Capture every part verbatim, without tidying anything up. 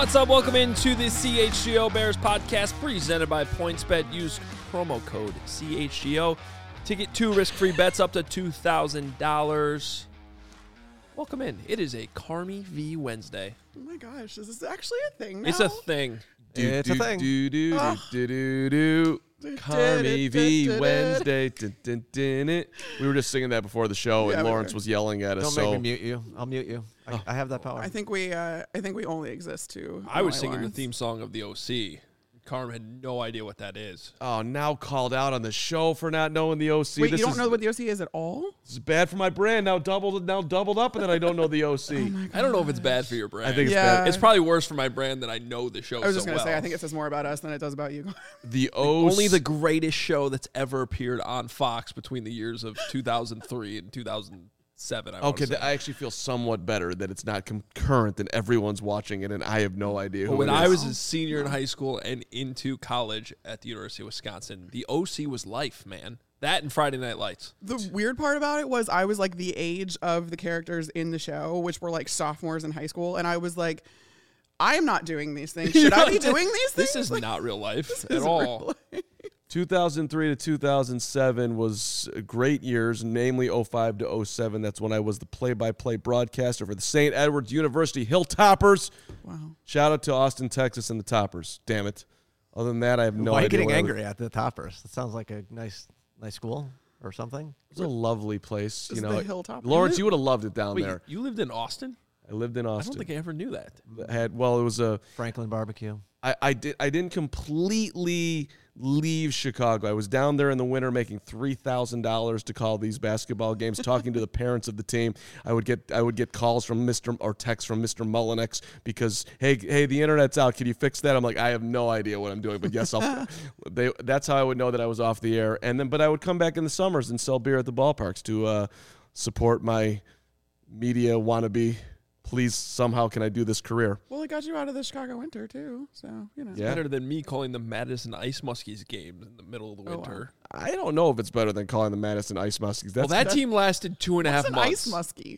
What's up? Welcome into the C H G O Bears podcast presented by PointsBet. Use promo code C H G O to get two risk-free bets up to two thousand dollars. Welcome in. It is a Carmi V Wednesday. Oh my gosh, is this actually a thing now? It's a thing. It's a thing. Do, do, Oh. do, do, do, do. Carmi V Wednesday. Dun, dun, dun, dun. We were just singing that before the show, Yeah, and we Lawrence were. was yelling at us. Don't so make me mute you. I'll mute you. I, Oh. I have that power. I think we, uh, I think we only exist to. I was annoy singing Lawrence. the theme song of the O C. Carm had no idea what that is. Oh, now called out on the show for not knowing the O C. Wait, this you don't is, know what the O C is at all? This is bad for my brand. Now doubled, now doubled up, and then I don't know the O C. Oh my I don't know if it's bad for your brand. I think it's Yeah. bad. It's probably worse for my brand that I know the show I was so just gonna well. say, I think it says more about us than it does about you. The O C. Only the greatest show that's ever appeared on Fox between the years of two thousand three and two thousand seven. I wanna Okay, say. th- I actually feel somewhat better that it's not concurrent and everyone's watching it, and I have no idea who But when it I is. was a senior in high school and into college at the University of Wisconsin, the O C was life, man. That and Friday Night Lights. The weird part about it was I was like the age of the characters in the show, which were like sophomores in high school, and I was like, I am not doing these things. Should I be doing these things? This is Like, not real life this at is all. real life. two thousand three to two thousand seven was great years, namely oh five to oh seven. That's when I was the play-by-play broadcaster for the Saint Edward's University Hilltoppers. Wow. Shout out to Austin, Texas, and the Toppers. Damn it. Other than that, I have no Why are you idea. getting what I was- angry at the Toppers? That sounds like a nice, nice school or something. It was a lovely place. This You is know, the Hilltoppers. Lawrence, you would have loved it down Wait, there. you lived in Austin? I lived in I Austin. don't think I ever knew that. had well, it was a. Franklin barbecue. I, I did. I didn't completely leave Chicago. I was down there in the winter making three thousand dollars to call these basketball games, talking to the parents of the team. I would get I would get calls from Mister or texts from Mister Mullinex because hey hey the internet's out. Can you fix that? I'm like I have no idea what I'm doing, but yes I'll. they that's how I would know that I was off the air. And then but I would come back in the summers and sell beer at the ballparks to uh, support my media wannabe. Please, somehow, can I do this career? Well, it got you out of the Chicago winter too, so you know. Yeah. Better than me calling the Madison Ice Muskies games in the middle of the Oh, wow. winter. I don't know if it's better than calling the Madison Ice Muskies. That's, Well, that team lasted two and a half What's an months. ice muskie?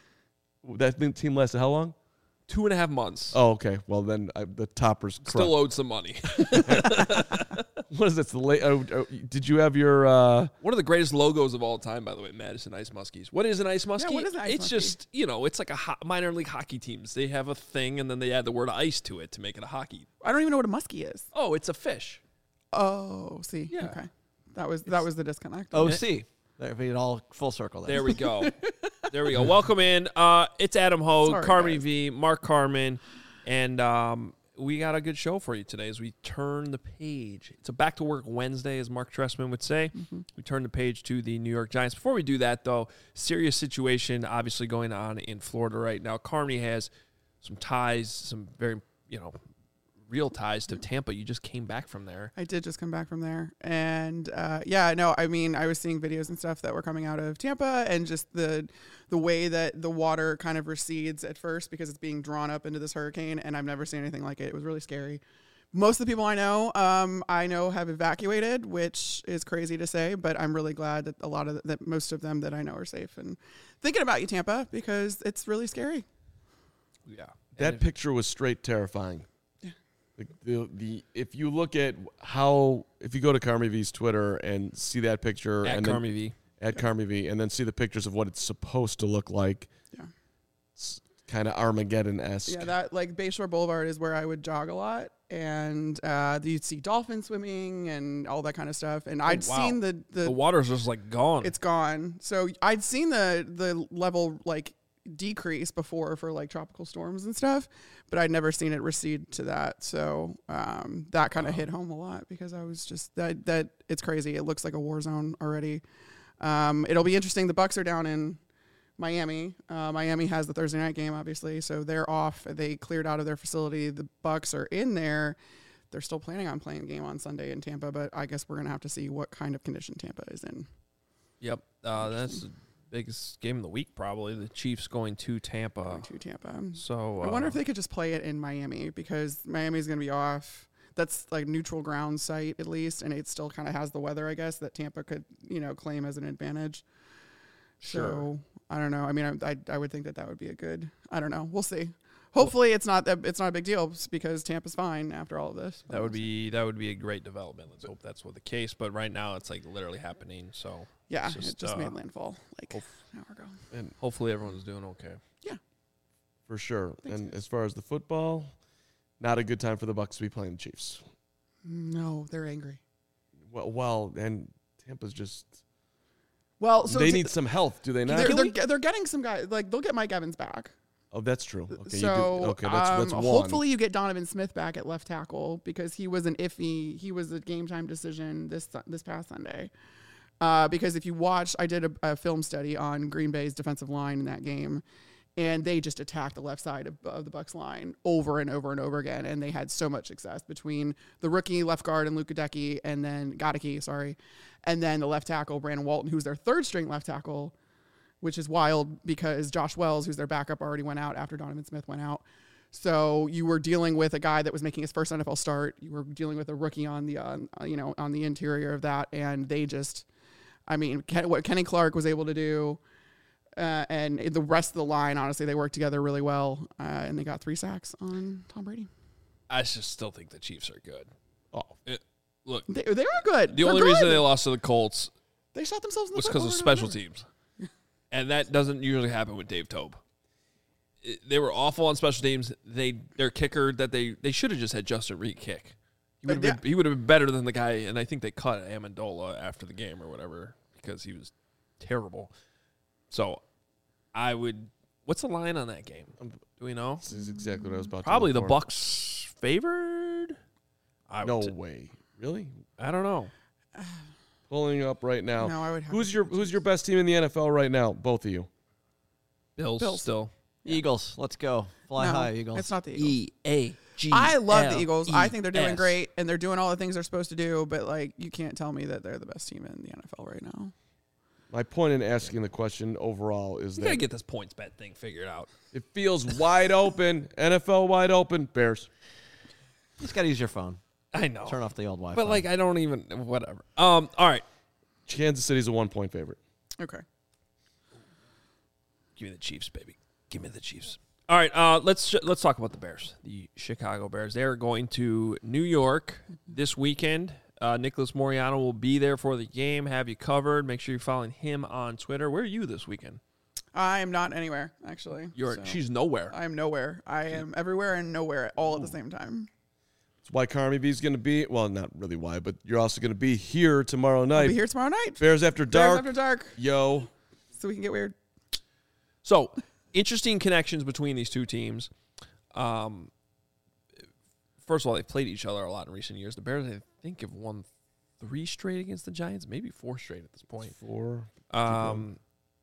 that team lasted how long? Two and a half months. Oh, okay. Well, then I, the Toppers. Still Still, owed some money. what is this? The late? Oh, oh, did you have your? Uh, One of the greatest logos of all time, by the way, Madison Ice Muskies. What is an Ice Muskie? what is an Ice It's Muskie? just, you know, it's like a ho- minor league hockey teams. They have a thing, and then they add the word ice to it to make it a hockey. I don't even know what a muskie is. Oh, it's a fish. Oh, see, Yeah. okay, that was that was the disconnect. O C. There, we get all full circle there. There we go. There we go. Welcome in. Uh, it's Adam Ho, Sorry, Carmi guys. V, Mark Carmen, and um, we got a good show for you today as we turn the page. It's a back to work Wednesday, as Mark Tressman would say. Mm-hmm. We turn the page to the New York Giants. Before we do that, though, serious situation obviously going on in Florida right now. Carmi has some ties, some very, you know, real ties to Tampa. You just came back from there. I did just come back from there, and uh, yeah, no, I mean, I was seeing videos and stuff that were coming out of Tampa, and just the the way that the water kind of recedes at first because it's being drawn up into this hurricane, and I've never seen anything like it. It was really scary. Most of the people I know, um, I know have evacuated, which is crazy to say, but I'm really glad that a lot of the, that most of them that I know are safe. And thinking about you, Tampa, because it's really scary. Yeah. that And picture was straight terrifying. The, the, the if you look at how if you go to Carmi V's Twitter and see that picture at and Carmi then, V. at Carmi V and then see the pictures of what it's supposed to look like, Yeah. it's kind of Armageddon-esque. Yeah, that like Bayshore Boulevard is where I would jog a lot, and uh, you'd see dolphins swimming and all that kind of stuff. And I'd wow. seen the, the The water's just like gone. it's gone. So I'd seen the the level like decrease before for like tropical storms and stuff, but I'd never seen it recede to that. So um, that kind of hit home a lot because I was just that that it's crazy. It looks like a war zone already. Um, it'll be interesting. The Bucks are down in Miami. Uh, Miami has the Thursday night game, obviously, so they're off. They cleared out of their facility. The Bucks are in there. They're still planning on playing a game on Sunday in Tampa, but I guess we're gonna have to see what kind of condition Tampa is in. Yep. Uh, that's the biggest game of the week, probably. The Chiefs going to Tampa. Going to Tampa. So uh, I wonder if they could just play it in Miami because Miami's going to be off. That's like neutral ground site at least, and it still kind of has the weather, I guess, that Tampa could, you know, claim as an advantage. Sure. So I don't know. I mean, I, I I would think that that would be a good. I don't know. We'll see. Hopefully, it's not that it's not a big deal because Tampa's fine after all of this. That would be that would be a great development. Let's hope that's what the case. But right now, it's like literally happening. So yeah, it's just, it just uh, made landfall like hope- an hour ago. And hopefully everyone's doing okay. for sure. Thanks, and guys. as far as the football, not a good time for the Bucs to be playing the Chiefs. No, they're angry. Well, well, and Tampa's just Well, so they t- need some health, do they not? they're, they're, ge- they're getting some guys like they'll get Mike Evans back. Oh, that's true. Okay, so you do, okay, that's, that's um, one. hopefully you get Donovan Smith back at left tackle because he was an iffy. He was a game time decision this this past Sunday. Uh, because if you watch, I did a, a film study on Green Bay's defensive line in that game, and they just attacked the left side of, of the Bucs line over and over and over again, and they had so much success between the rookie left guard and Luka Decky, and then Godecki, sorry, and then the left tackle Brandon Walton, who's their third string left tackle, which is wild because Josh Wells, who's their backup, already went out after Donovan Smith went out. So you were dealing with a guy that was making his first N F L start. You were dealing with a rookie on the, uh, you know, on the interior of that, and they just, I mean, Ken, what Kenny Clark was able to do, uh, and the rest of the line, honestly, they worked together really well, uh, and they got three sacks on Tom Brady. I just still think the Chiefs are good. Oh, It, look, They, they are good. the They're only good. reason they lost to the Colts they shot themselves in the was foot because of over and special over. teams, and that doesn't usually happen with Dave Tobe. It- they were awful on special teams. They their kicker that they they should have just had Justin Reed kick. He would have Uh, been he would have been better than the guy, and I think they cut Amendola after the game or whatever because he was terrible. So I would. What's the line on that game? Do we know? this is exactly what I was about Probably to the look for. Bucks favored. I No would t- way. Really? I don't know. Pulling up right now. No, I would have Who's to your take the Who's your best team in the N F L right now? Both of you. Bills, Bills. still. Eagles, let's go. Fly No, high, Eagles. It's not the Eagles. E A G. I love the Eagles. I think they're doing S. great, and they're doing all the things they're supposed to do. But like, you can't tell me that they're the best team in the N F L right now. My point in asking the question overall is You gotta that get this points bet thing figured out. it feels wide open. N F L wide open. Bears. You just got to use your phone. I know, Turn off the old Wi-Fi. but like I don't even whatever. Um. All right, Kansas City's a one point favorite. Okay. give me the Chiefs, baby. Give me the Chiefs. All right. Uh. Let's sh- let's talk about the Bears. The Chicago Bears. They are going to New York this weekend. Uh, Nicholas Moriano will be there for the game. Have you covered? Make sure you're following him on Twitter. Where are you this weekend? I am not anywhere actually. You're. so She's nowhere. I am nowhere. I am everywhere and nowhere all at the same time. That's why Carmi B's going to be, well, not really why, but you're also going to be here tomorrow I'll night. be here tomorrow night. Bears After Bears Dark. after dark, Yo. so we can get weird. So, interesting connections between these two teams. Um, first of all, they've played each other a lot in recent years. The Bears, I think, have won three straight against the Giants, maybe four straight at this point. Four. Um,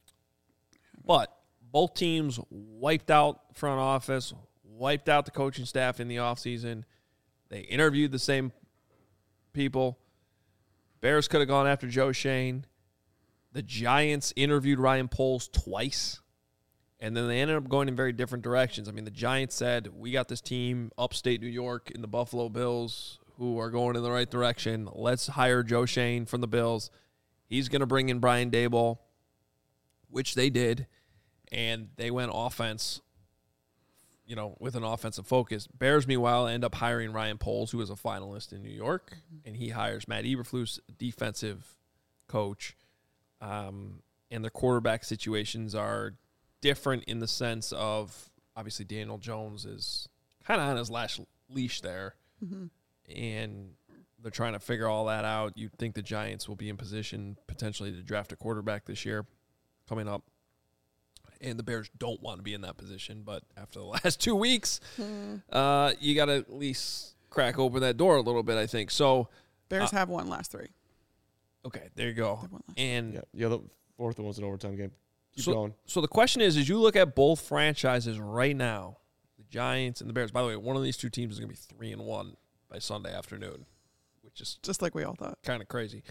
but both teams wiped out front office, wiped out the coaching staff in the offseason. They interviewed the same people. Bears could have gone after Joe Shane. The Giants interviewed Ryan Poles twice, and then they ended up going in very different directions. I mean, the Giants said, we got this team upstate New York in the Buffalo Bills who are going in the right direction. Let's hire Joe Shane from the Bills. He's going to bring in Brian Daboll, which they did, and they went offense, you know, with an offensive focus. Bears, meanwhile, end up hiring Ryan Poles, who is a finalist in New York, and he hires Matt Eberflus, defensive coach. Um, and their quarterback situations are different in the sense of, obviously, Daniel Jones is kind of on his last leash there, Mm-hmm. and they're trying to figure all that out. You'd think the Giants will be in position potentially to draft a quarterback this year coming up. And the Bears don't want to be in that position, but after the last two weeks, uh, you got to at least crack open that door a little bit, I think. So, Bears Uh, have won last three. okay, there you go. They've won last. And Yeah, yeah, the fourth one was an overtime game. Keep so, going. so the question is, as you look at both franchises right now, the Giants and the Bears, by the way, one of these two teams is going to be three and one by Sunday afternoon, which is Just like we all thought. kind of crazy.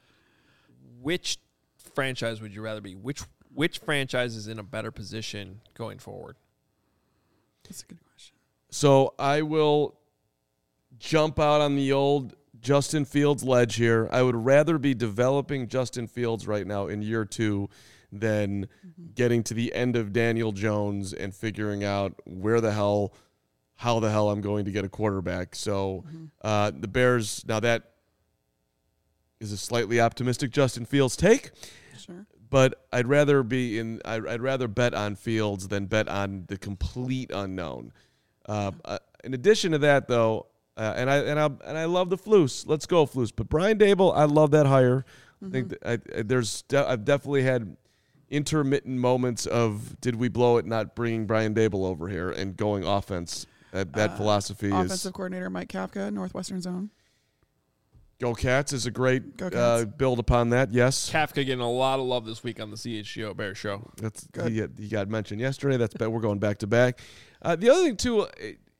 Which franchise would you rather be? Which which franchise is in a better position going forward? That's a good question. So I will jump out on the old Justin Fields ledge here. I would rather be developing Justin Fields right now in year two than getting to the end of Daniel Jones and figuring out where the hell, how the hell I'm going to get a quarterback. So uh, the Bears, now that is a slightly optimistic Justin Fields take. Sure. But I'd rather be in. I'd, I'd rather bet on Fields than bet on the complete unknown. Uh, uh, in addition to that, though, uh, and I and I and I love the Flus. Let's go Flus. But Brian Dable, I love that hire. Mm-hmm. I think that I, I, there's. De- I've definitely had intermittent moments of did we blow it not bringing Brian Dable over here and going offense. That that Uh, philosophy Offensive is coordinator Mike Kafka, Northwestern Zone. go Cats is a great Go uh, Cats. build upon that. Yes. Kafka getting a lot of love this week on the C H G O Bears show. That's Good. he, he got mentioned yesterday. That's we're going back to back. Uh, the other thing too,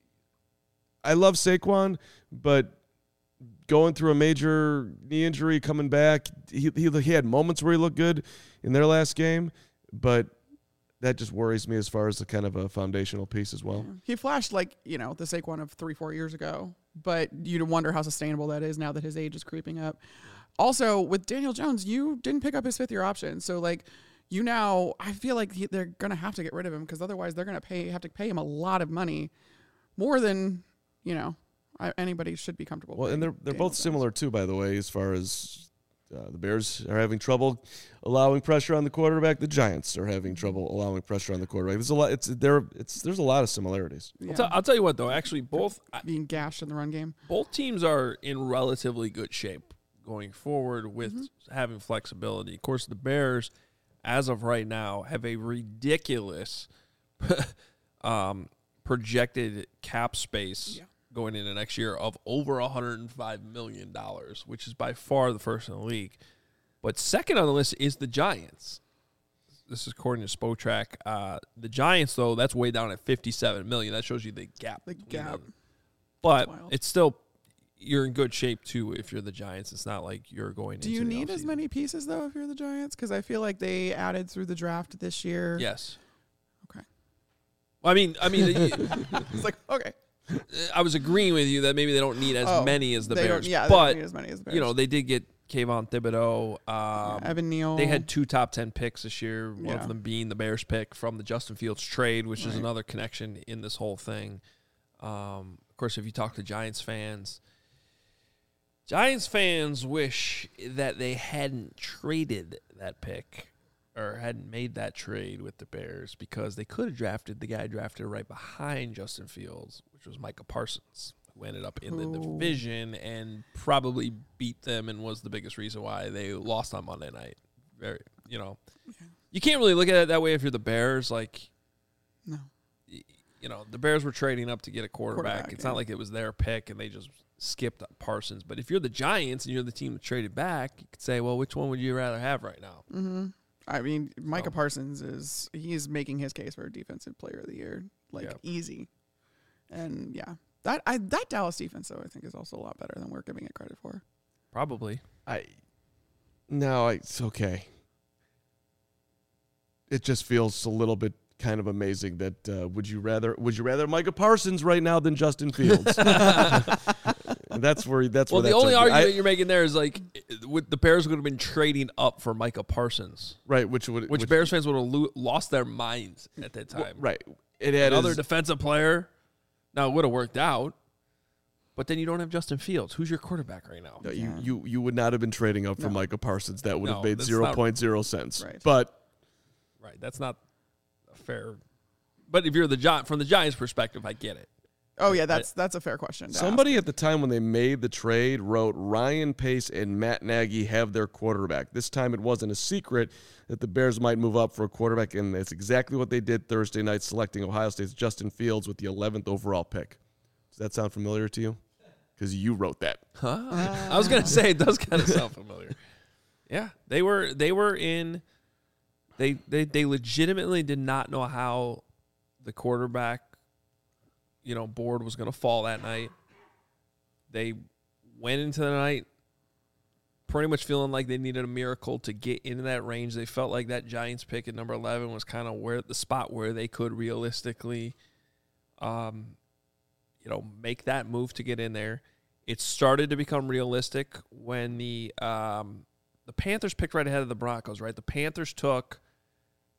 I love Saquon, but going through a major knee injury, coming back, he he, he had moments where he looked good in their last game, but that just worries me as far as the kind of a foundational piece as well. He flashed like, you know, the Saquon of three, four years ago, but you'd wonder how sustainable that is now that his age is creeping up. Also, with Daniel Jones, you didn't pick up his fifth year option. So, like, you now, I feel like he, they're going to have to get rid of him because otherwise they're going to pay, have to pay him a lot of money, more than, you know, I, anybody should be comfortable Well, and they're they're Daniel both Jones. similar too, by the way, as far as uh, the Bears are having trouble allowing pressure on the quarterback. The Giants are having trouble allowing pressure on the quarterback. There's a lot. It's there. It's there's a lot of similarities. Yeah. I'll, t- I'll tell you what, though. Actually, both Being gashed in the run game. both teams are in relatively good shape going forward with Mm-hmm. having flexibility. Of course, the Bears, as of right now, have a ridiculous um, projected cap space Yeah. going into next year of over one hundred five million dollars, which is by far the first in the league. But second on the list is the Giants. This is according to Spotrac. Uh, the Giants, though, that's way down at fifty-seven million dollars. That shows you the gap. The between gap. them. But wild. it's still, you're in good shape, too, if you're the Giants. It's not like you're going Do into you the need as offseason. many pieces, though, if you're the Giants? Because I feel like they added through the draft this year. Yes. Okay. Well, I mean, I mean, It's like, okay. I was agreeing with you that maybe they don't need as Oh, many as the they don't- Bears. yeah, they don't but, need as many as the Bears. you know, they did get Kayvon Thibodeau. Um, Yeah, Evan Neal. They had two top ten picks this year, one Yeah. of them being the Bears pick from the Justin Fields trade, which is Right. another connection in this whole thing. Um, of course, if you talk to Giants fans, Giants fans wish that they hadn't traded that pick or hadn't made that trade with the Bears because they could have drafted the guy drafted right behind Justin Fields, which was Micah Parsons, who ended up in the Ooh. division and probably beat them and was the biggest reason why they lost on Monday night. Very, you know, you can't really look at it that way if you're the Bears. Like, No. y- you know, the Bears were trading up to get a quarterback. Quarterback, it's yeah. not like it was their pick and they just skipped Parsons. But if you're the Giants and you're the team that traded back, you could say, well, which one would you rather have right now? Mm-hmm. I mean, Micah So. Parsons is he's making his case for defensive player of the year, like Yeah. easy. And yeah, that I that Dallas defense though I think is also a lot better than we're giving it credit for. Probably. I no, I, it's okay. It just feels a little bit kind of amazing that uh, would you rather would you rather Micah Parsons right now than Justin Fields? And that's where that's Well, where the that only took me. argument I- you're making there is like, with the Bears would have been trading up for Micah Parsons, right, which would which, Bears fans would have lo- lost their minds at that time. right. It had Another his, defensive player. Now it would have worked out, but then you don't have Justin Fields. Who's your quarterback right now? no, you, Yeah. you you would not have been trading up for No. Micah Parsons. That would No, have made that's zero not- point zero cents. Right. But Right. That's not fair. But if you're the Gi- from the Giants' perspective, I get it. Oh yeah, that's that's a fair question. to somebody at the time when they made the trade wrote Ryan Pace and Matt Nagy have their quarterback. This time it wasn't a secret that the Bears might move up for a quarterback, and that's exactly what they did Thursday night, selecting Ohio State's Justin Fields with the eleventh overall pick. Does that sound familiar to you? Because you wrote that. Huh? I was gonna say it does kind of sound familiar. Yeah, they were they were in. They they they legitimately did not know how the quarterback, you know, board was going to fall that night. They went into the night pretty much feeling like they needed a miracle to get into that range. They felt like that Giants pick at number eleven was kind of where the spot where they could realistically, um, you know, make that move to get in there. It started to become realistic when the um, the Panthers picked right ahead of the Broncos. Right, the Panthers took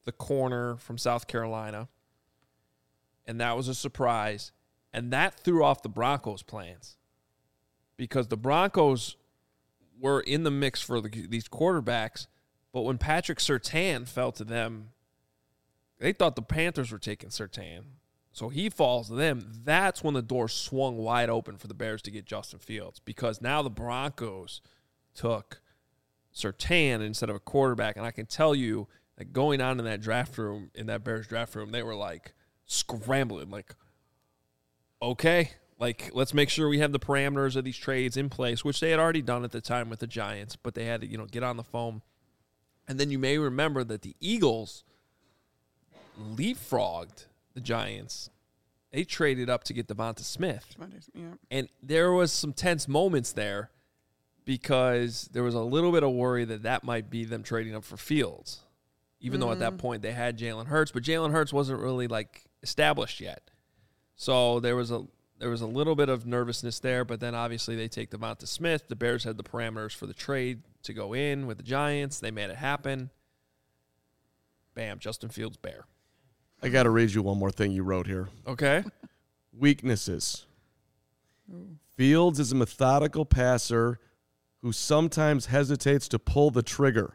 the corner from South Carolina, and that was a surprise. And that threw off the Broncos' plans because the Broncos were in the mix for the, these quarterbacks, but when Patrick Surtain fell to them, they thought the Panthers were taking Surtain. So he falls to them. That's when the door swung wide open for the Bears to get Justin Fields because now the Broncos took Surtain instead of a quarterback. And I can tell you that going on in that draft room, in that Bears draft room, they were like scrambling, like, okay, like let's make sure we have the parameters of these trades in place, which they had already done at the time with the Giants, but they had to, you know, get on the phone. And then you may remember that the Eagles leapfrogged the Giants. They traded up to get Devonta Smith. Yeah. And there was some tense moments there because there was a little bit of worry that that might be them trading up for Fields, even mm-hmm. though at that point they had Jalen Hurts, but Jalen Hurts wasn't really like established yet. So there was a there was a little bit of nervousness there, but then obviously they take Devonta Smith. The Bears had the parameters for the trade to go in with the Giants. They made it happen. Bam, Justin Fields, Bear. I got to read you one more thing you wrote here. Okay. Weaknesses. Fields is a methodical passer who sometimes hesitates to pull the trigger.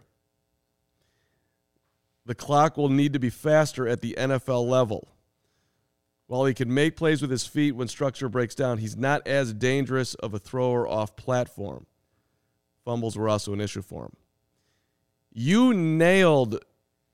The clock will need to be faster at the N F L level. While he can make plays with his feet when structure breaks down, he's not as dangerous of a thrower off platform. Fumbles were also an issue for him. You nailed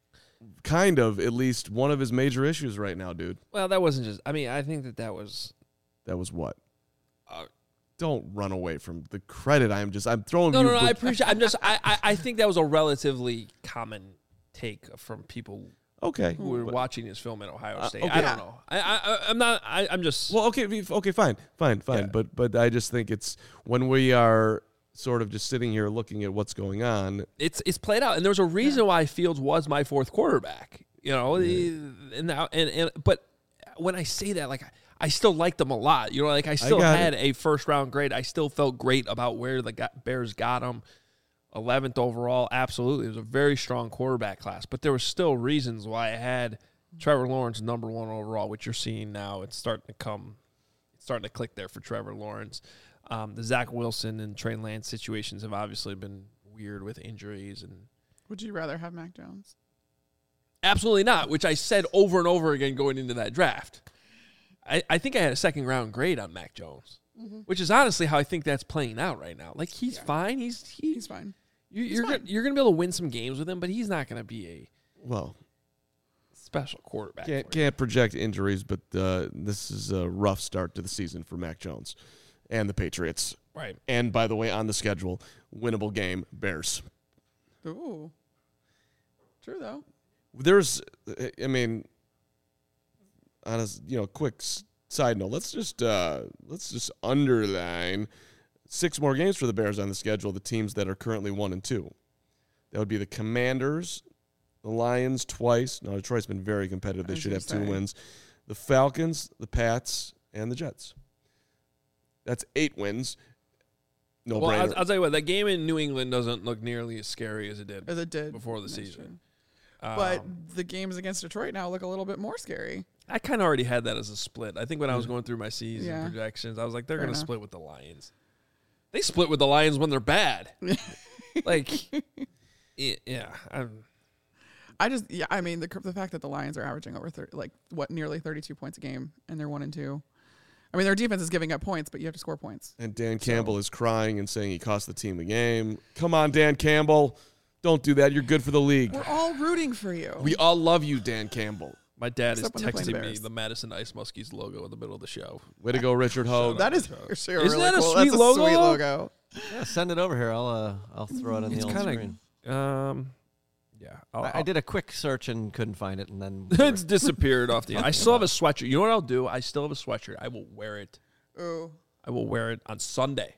kind of at least one of his major issues right now, dude. Well, that wasn't just – I mean, I think that that was – That was what? Uh, Don't run away from the credit. I'm just – I'm throwing no, you – No, no, no, I appreciate – I'm just – I I I think that was a relatively common take from people – Okay. who were but, watching his film at Ohio State. Uh, okay. I don't know. I, I, I'm not. I, I'm just. Well, okay, okay, fine, fine, fine. Yeah. But, but I just think it's when we are sort of just sitting here looking at what's going on. It's it's played out, and there's a reason why Fields was my fourth quarterback. You know, Yeah. and now and, and but when I say that, like I still liked them a lot. You know, like I still got had it. a first round grade. I still felt great about where the got, Bears got him. eleventh overall, absolutely. It was a very strong quarterback class, but there were still reasons why I had Trevor Lawrence number one overall, which you're seeing now. It's starting to come, it's starting to click there for Trevor Lawrence. Um, the Zach Wilson and Trey Lance situations have obviously been weird with injuries. And Would you rather have Mac Jones? absolutely not, which I said over and over again going into that draft. I, I think I had a second round grade on Mac Jones, mm-hmm. which is honestly how I think that's playing out right now. Like he's yeah. fine. He's he, He's fine. You, He's you're fine. Gonna, you're going to be able to win some games with him, but he's not going to be a Well, special quarterback. can't for you. can't project injuries, but uh, this is a rough start to the season for Mac Jones and the Patriots. Right. And by the way, on the schedule, winnable game, Bears. Ooh. True though. There's, I mean, on a you know quick s- side note, let's just uh, let's just underline six more games for the Bears on the schedule. The teams that are currently one and two, that would be the Commanders, the Lions twice. No, Detroit's been very competitive. They I was should have gonna two say. wins. The Falcons, the Pats, and the Jets. That's eight wins. No well, brainer. I'll, I'll tell you what, that game in New England doesn't look nearly as scary as it did As it did before the That's season. true. But Um, the games against Detroit now look a little bit more scary. I kind of already had that as a split. I think when I was going through my season Yeah. projections, I was like, they're Fair going to enough. split with the Lions. They split with the Lions when they're bad. like, yeah, yeah I'm, I just, yeah, I mean, the the fact that the Lions are averaging over thir- like what nearly thirty-two points a game, and they're one and two. I mean, their defense is giving up points, but you have to score points. And Dan Campbell is crying and saying he cost the team the game. Come on, Dan Campbell. Don't do that. You're good for the league. We're all rooting for you. We all love you, Dan Campbell. my dad is Except when they're playing the texting me Bears. the Madison Ice Muskies logo in the middle of the show. Way to go, Richard Hogue. that is actually a Isn't really that a cool. sweet That's a logo? sweet logo. Yeah, send it over here. I'll uh, I'll throw it on the It's old kinda- screen. Um, yeah. I'll, I, I did a quick search and couldn't find it, and then it's disappeared off the. I still have a sweatshirt. You know what I'll do? I still have a sweatshirt. I will wear it. Ooh. I will wear it on Sunday.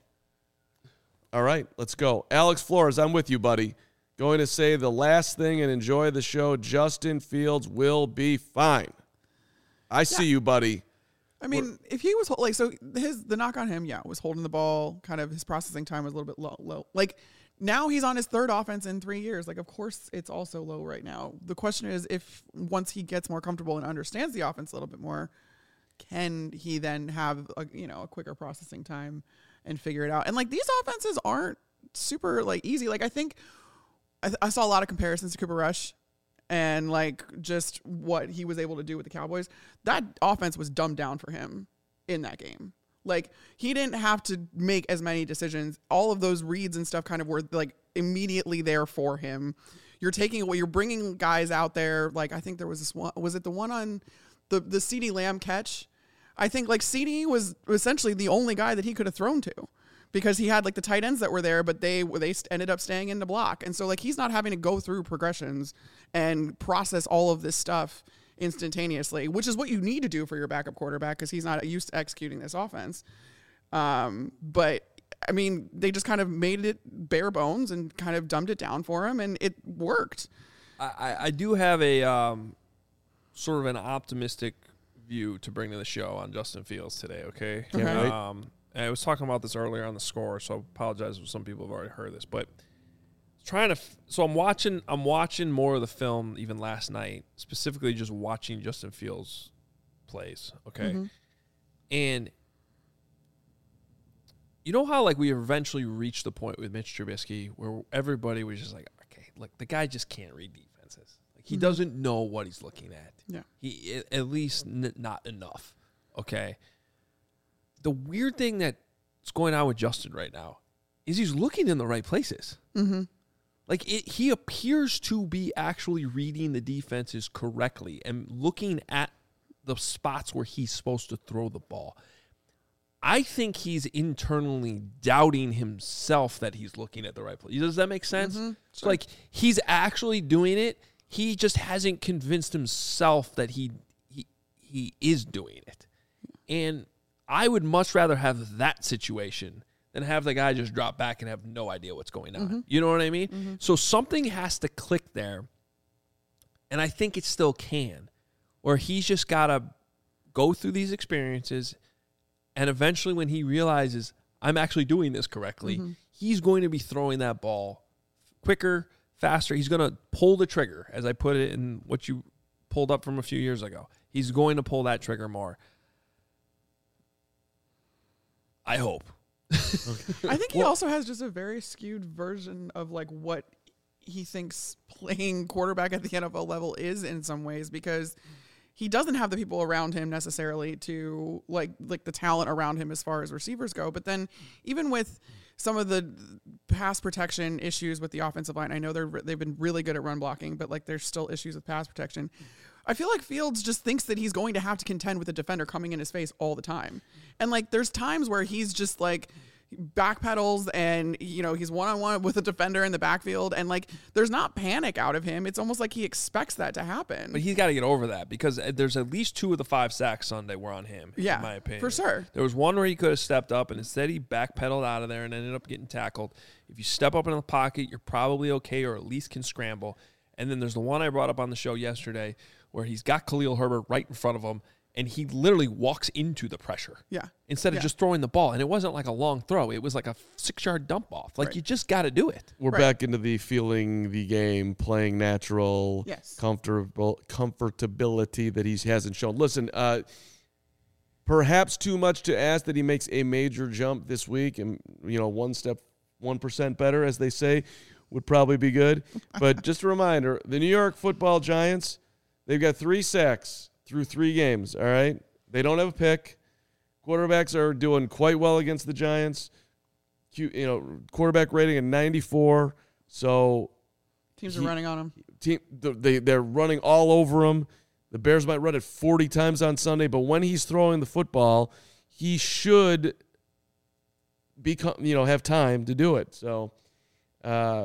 All right, let's go. Alex Flores, I'm with you, buddy. Going to say the last thing and enjoy the show. Justin Fields will be fine. I see you, buddy. I mean, if he was hol- like, so his the knock on him, yeah, was holding the ball. Kind of his processing time was a little bit low. low. Like now he's on his third offense in three years. Like, of course, it's also low right now. The question is, if once he gets more comfortable and understands the offense a little bit more, can he then have a, you know a quicker processing time and figure it out? And like these offenses aren't super like easy. Like I think I, th- I saw a lot of comparisons to Cooper Rush. And like just what he was able to do with the Cowboys, that offense was dumbed down for him in that game. Like he didn't have to make as many decisions. All of those reads and stuff kind of were like immediately there for him. You're taking away, you're bringing guys out there. Like I think there was this one, was it the one on the the CeeDee Lamb catch? I think like CeeDee was essentially the only guy that he could have thrown to. Because he had like the tight ends that were there, but they they ended up staying in the block, and so like he's not having to go through progressions and process all of this stuff instantaneously, which is what you need to do for your backup quarterback because he's not used to executing this offense. Um, but I mean, they just kind of made it bare bones and kind of dumbed it down for him, and it worked. I, I do have a um, sort of an optimistic view to bring to the show on Justin Fields today. Okay. Okay. Um, And I was talking about this earlier on the score, so I apologize if some people have already heard this. But trying to, f- so I'm watching, I'm watching more of the film even last night, specifically just watching Justin Fields plays. Okay, Mm-hmm. and you know how like we eventually reached the point with Mitch Trubisky where everybody was just like, okay, look, the guy just can't read defenses. Like he Mhm. doesn't know what he's looking at. Yeah. He at- at least n- not enough. Okay. The weird thing that's going on with Justin right now is he's looking in the right places. Mm-hmm. Like it, he appears to be actually reading the defenses correctly and looking at the spots where he's supposed to throw the ball. I think he's internally doubting himself that he's looking at the right place. Does that make sense? Mm-hmm. So like he's actually doing it. He just hasn't convinced himself that he he he is doing it. And I would much rather have that situation than have the guy just drop back and have no idea what's going on. Mm-hmm. You know what I mean? Mm-hmm. So something has to click there, and I think it still can, where he's just got to go through these experiences, and eventually when he realizes, I'm actually doing this correctly, Mm-hmm. he's going to be throwing that ball quicker, faster. He's going to pull the trigger, as I put it in what you pulled up from a few years ago. He's going to pull that trigger more. I hope. I think he Well- also has just a very skewed version of like what he thinks playing quarterback at the N F L level is in some ways, because he doesn't have the people around him necessarily to like like the talent around him as far as receivers go. But then even with some of the pass protection issues with the offensive line, I know they're they've been really good at run blocking, but like there's still issues with pass protection. I feel like Fields just thinks that he's going to have to contend with a defender coming in his face all the time. And like there's times where he's just like backpedals and, you know, he's one-on-one with a defender in the backfield, and like there's not panic out of him. It's almost like he expects that to happen. But he's got to get over that, because there's at least two of the five sacks Sunday were on him, Yeah, in my opinion. for sure. There was one where he could have stepped up, and instead he backpedaled out of there and ended up getting tackled. If you step up in the pocket, you're probably okay, or at least can scramble. And then there's the one I brought up on the show yesterday where he's got Khalil Herbert right in front of him, and he literally walks into the pressure. Yeah. Instead of Yeah. just throwing the ball. And it wasn't like a long throw. It was like a six-yard dump off. Like, Right. you just got to do it. We're Right. back into the feeling the game, playing natural, Yes. comfortable comfortability that he hasn't shown. Listen, uh, perhaps too much to ask that he makes a major jump this week, and you know, one step, one percent better, as they say, would probably be good. But just a reminder: the New York Football Giants, they've got three sacks through three games. All right, they don't have a pick. Quarterbacks are doing quite well against the Giants. Q, you know, quarterback rating at ninety-four. So Teams he- are running on him. team they they're running all over him. The Bears might run it forty times on Sunday, but when he's throwing the football, he should become you know have time to do it. So, uh,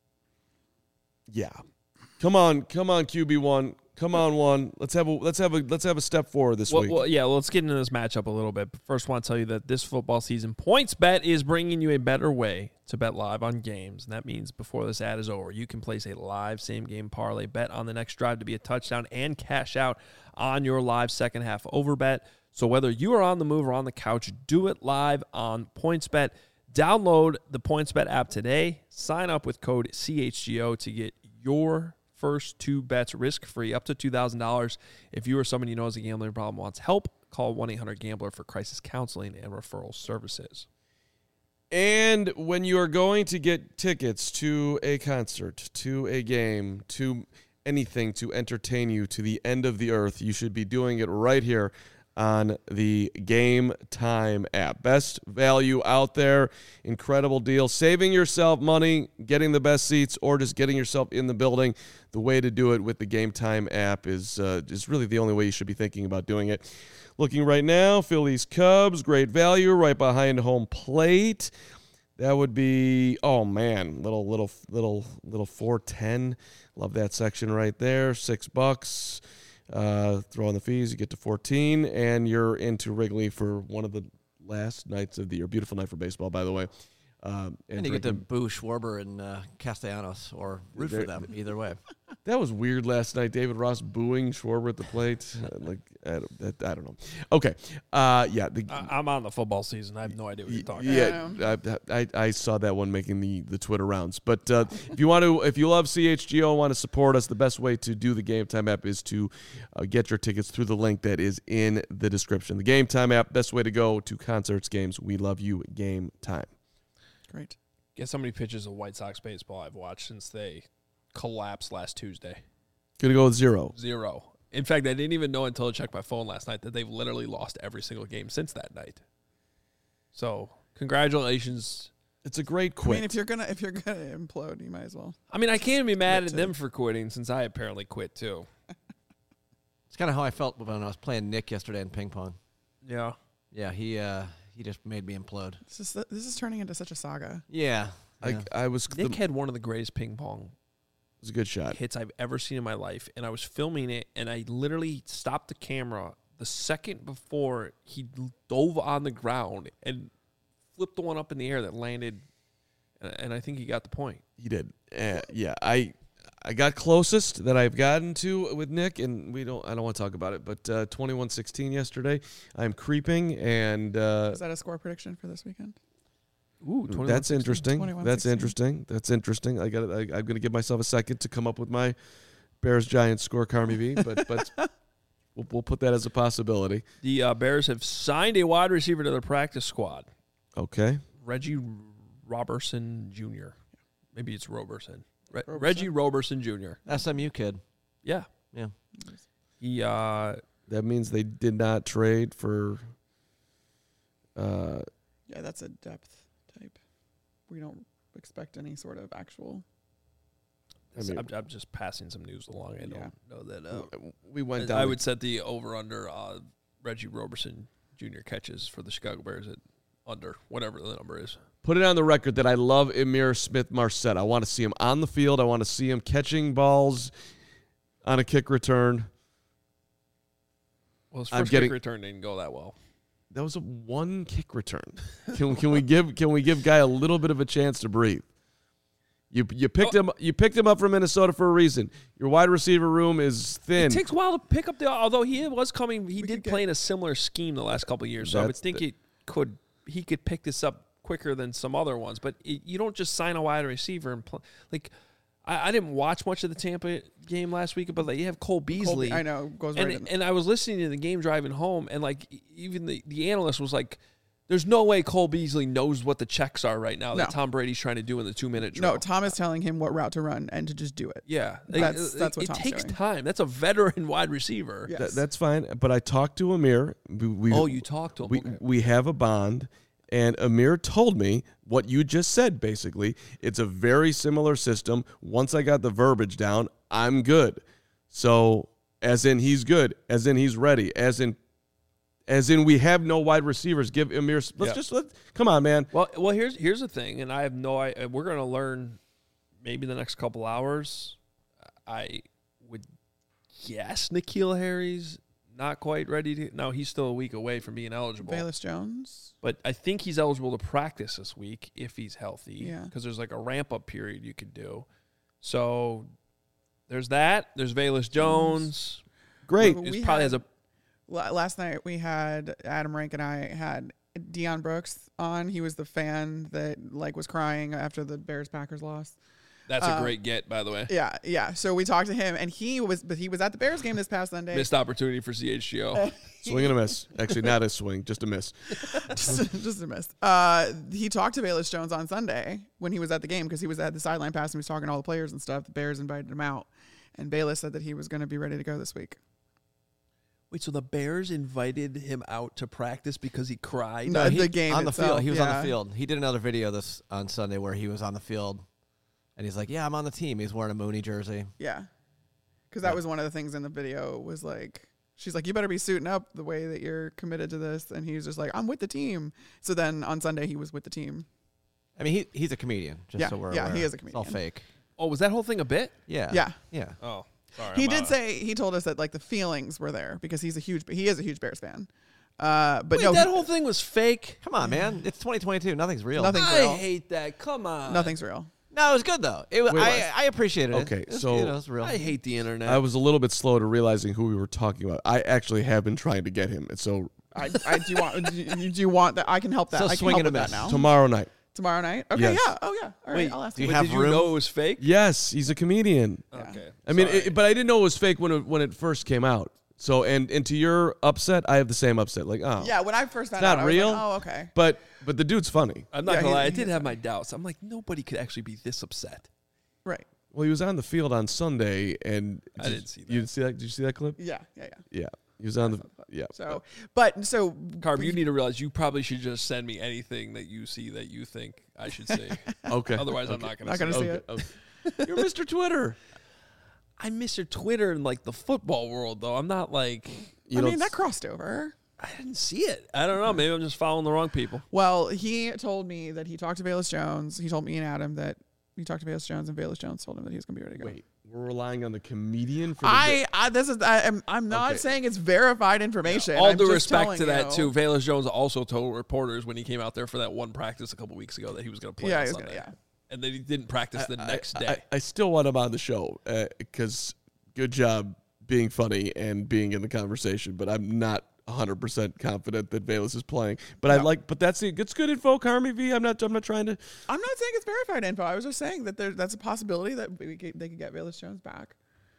yeah, come on, come on, Q B one, come on, one. Let's have a let's have a let's have a step forward this Well, week. well, yeah, well, let's get into this matchup a little bit. But first, I want to tell you that this football season, PointsBet is bringing you a better way to bet live on games. And that means before this ad is over, you can place a live same-game parlay, bet on the next drive to be a touchdown, and cash out on your live second-half over bet. So whether you are on the move or on the couch, do it live on PointsBet. Download the PointsBet app today. Sign up with code C H G O to get your first two bets risk-free, up to two thousand dollars. If you or someone you know has a gambling problem wants help, call one eight hundred gambler for crisis counseling and referral services. And when you are going to get tickets to a concert, to a game, to anything to entertain you to the end of the earth, you should be doing it right here on the Game Time app. Best value out there, incredible deal. Saving yourself money, getting the best seats, or just getting yourself in the building. The way to do it with the Game Time app is uh, is really the only way you should be thinking about doing it. Looking right now, Phillies Cubs, great value, right behind home plate. That would be, oh man, little little little little four ten. Love that section right there. Six bucks. Uh, throw on the fees, you get to fourteen, and you're into Wrigley for one of the last nights of the year. Beautiful night for baseball, by the way. Um, and, And you get to boo Schwarber and uh, Castellanos, or root for There- them, either way. That was weird last night. David Ross booing Schwarber at the plate. Uh, like I don't, that, I don't know. Okay, uh, yeah, the, I- I'm on the football season. I have no idea what you're talking yeah, I, I, I saw that one making the, the Twitter rounds. But uh, if you want to, if you love C H G O and want to support us, the best way to do the Game Time app is to uh, get your tickets through the link that is in the description. The Game Time app, best way to go to concerts, games. We love you. Game Time. Great. Guess how many pitches of White Sox baseball I've watched since they collapsed last Tuesday? Gonna go with zero. Zero. In fact, I didn't even know until I checked my phone last night that they've literally lost every single game since that night. So, congratulations. It's a great I quit. mean, if you're gonna if you're gonna implode, you might as well. I mean, I can't be mad Quit at too. them for quitting since I apparently quit too. It's kind of how I felt when I was playing Nick yesterday in ping pong. Yeah. Yeah, he uh, he just made me implode. This is this is turning into such a saga. Yeah. I, yeah. I was the, Nick it had one of the greatest ping pong was a good shot. hits I've ever seen in my life, and I was filming it, and I literally stopped the camera the second before he dove on the ground and flipped the one up in the air that landed, and, and I think he got the point. He did. Uh, yeah, I I got closest that I've gotten to with Nick, and we don't. I don't want to talk about it, but uh, twenty-one sixteen yesterday. I'm creeping, and uh, Is that a score prediction for this weekend? Ooh, that's interesting. twenty-one That's sixteen. interesting. That's interesting. I got. I, I'm going to give myself a second to come up with my Bears Giants score, Carmi V, but but we'll, we'll put that as a possibility. The uh, Bears have signed a wide receiver to their practice squad, Okay. Reggie Roberson Junior Maybe it's Roberson. Re- Roberson? Reggie Roberson Junior S M U kid. Yeah. Yeah. He uh, That means they did not trade for. Uh, Yeah, that's a depth type. We don't expect any sort of actual. I mean- I'm, I'm just passing some news along. I don't Yeah. know that. Uh, we went I, down. I the- would set the over under uh, Reggie Roberson Junior catches for the Chicago Bears at under whatever the number is. Put it on the record that I love Emir Smith-Marset. I want to see him on the field. I want to see him catching balls on a kick return. Well, his I'm first getting- kick return didn't go that well. That was a one kick return. Can can we give can we give Guy a little bit of a chance to breathe? You you picked Oh. him you picked him up from Minnesota for a reason. Your wide receiver room is thin. It takes a while to pick up the. Although he was coming, he We did could play in a similar scheme the last couple of years. So I would That's think the- it could he could pick this up quicker than some other ones. But it, you don't just sign a wide receiver and play. Like I, I didn't watch much of the Tampa game last week, but like you have Cole Beasley. Colby, I know goes and right in. and I was listening to the game driving home, and like e- even the, the analyst was like, "There's no way Cole Beasley knows what the checks are right now that No. Tom Brady's trying to do in the two minute drill." No, Tom is telling him what route to run and to just do it. yeah, Like, That's- it- that's what it Tom's takes doing. time. That's a veteran wide receiver. Yeah. That- that's fine. But I talked to Amir. We, we, Oh, you talked to him. we Okay. we have a bond, and Amir told me what you just said. Basically, it's a very similar system. Once I got the verbiage down, I'm good. So, as in he's good, as in he's ready, as in, as in we have no wide receivers. Give Amir. Let's Yeah. just let. Come on, man. Well, well, here's here's the thing, and I have no idea. We're going to learn maybe the next couple hours. I would guess N'Keal Harry's not quite ready to. No, he's still a week away from being eligible. Bayless Jones. But I think he's eligible to practice this week if he's healthy. Yeah. Because there's like a ramp up period you could do. So there's that. There's Bayless Jones. Great. Well, He we probably had- has a la- last night we had Adam Rank and I had Deion Brooks on. He was the fan that like was crying after the Bears Packers lost. That's a Um, great get, by the way. Yeah, yeah. So we talked to him, and he was, but he was at the Bears game this past Sunday. Missed opportunity for C H G O. Swing and a miss. Actually, not a swing, just a miss. just, just a miss. Uh, he talked to Bayless Jones on Sunday when he was at the game because he was at the sideline pass and he was talking to all the players and stuff. The Bears invited him out, and Bayless said that he was going to be ready to go this week. Wait, so the Bears invited him out to practice because he cried? No, he- the game on the itself, field. He was on yeah. the field. He did another video this on Sunday where he was on the field, and he's like, "Yeah, I'm on the team." He's wearing a Mooney jersey. Yeah, because that was one of the things in the video was like, she's like, you better be suiting up the way that you're committed to this. And he was just like, I'm with the team. So then on Sunday, he was with the team. I mean, he he's a comedian. Just Yeah, so we're yeah, aware. he is a It's all comedian. fake. Oh, was that whole thing a bit? Yeah. Yeah. Yeah. Oh, sorry. He I'm did out. say, he told us that like the feelings were there because he's a huge, he is a huge Bears fan. Uh, but Wait, no, that he- whole thing was fake? Come on, man. It's twenty twenty-two. Nothing's real. Nothing's I real. hate that. Come on. nothing's real. No, it was good though. It was, Wait, I what? I appreciated it. Okay, It was, so- you know, it's real. I hate the internet. I was a little bit slow to realizing who we were talking about. I actually have been trying to get him. And so I, I do want, do you, do you want that? I can help that. So I can swing help and a with that miss. now. tomorrow night. Tomorrow night? Okay, Yes. yeah. Oh, yeah. All right, Wait, I'll ask do him. you Wait, have did you room? know it was fake? Yes, he's a comedian. Yeah. Okay. I mean, sorry. it, but I didn't know it was fake when it, when it first came out. So, and and to your upset, I have the same upset. Like, oh, Yeah, when I first found It's not out, I was real. like, oh, okay. But but the dude's funny. I'm not Yeah, going to he- lie. I he did is have my doubts. I'm like, nobody could actually be this upset. Right. Well, he was on the field on Sunday, and I didn't see that. You didn't see that? Did you see that clip? Yeah, yeah, yeah. Yeah, he was on the. Yeah. So, but so Carb, you need to realize you probably should just send me anything that you see that you think I should see. Okay. Otherwise, I'm Okay. not going Not to gonna see see it. it. Okay. You're Mister Twitter. I'm Mister Twitter in like the football world, though. I'm not like You I know, mean that crossed over. I didn't see it. I don't know. Maybe I'm just following the wrong people. Well, he told me that he talked to Bayless Jones. He told me and Adam that he talked to Bayless Jones, and Bayless Jones told him that he was going to be ready to go. Wait, we're relying on the comedian for the I, I this is I, am I'm not Okay. saying it's verified information. All I'm due just respect telling to that, you. too. Valus Jones also told reporters when he came out there for that one practice a couple weeks ago that he was going to play Yeah, on he was Sunday. gonna- yeah. And then he didn't practice the I- next I, day. I, I still want him on the show because good job being funny and being in the conversation, but I'm not one hundred percent confident that Valus is playing. But I No. like, but that's it. It's good info, Carmi V. I'm not. I'm not trying to. I'm not saying it's verified info. I was just saying that there that's a possibility that we could, they could get Bayless Jones back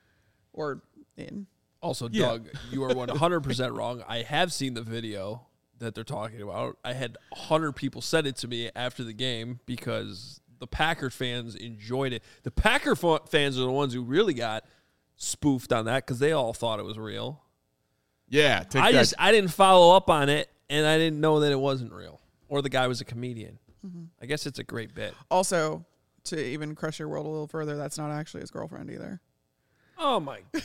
or in. Also, Yeah. Doug, you are one hundred percent wrong. I have seen the video that they're talking about. I had one hundred people send it to me after the game because the Packer fans enjoyed it. The Packer fa- fans are the ones who really got spoofed on that because they all thought it was real. Yeah, take I that. just I didn't follow up on it, and I didn't know that it wasn't real or the guy was a comedian. I guess it's a great bit. Also, to even crush your world a little further, that's not actually his girlfriend either. Oh my! Get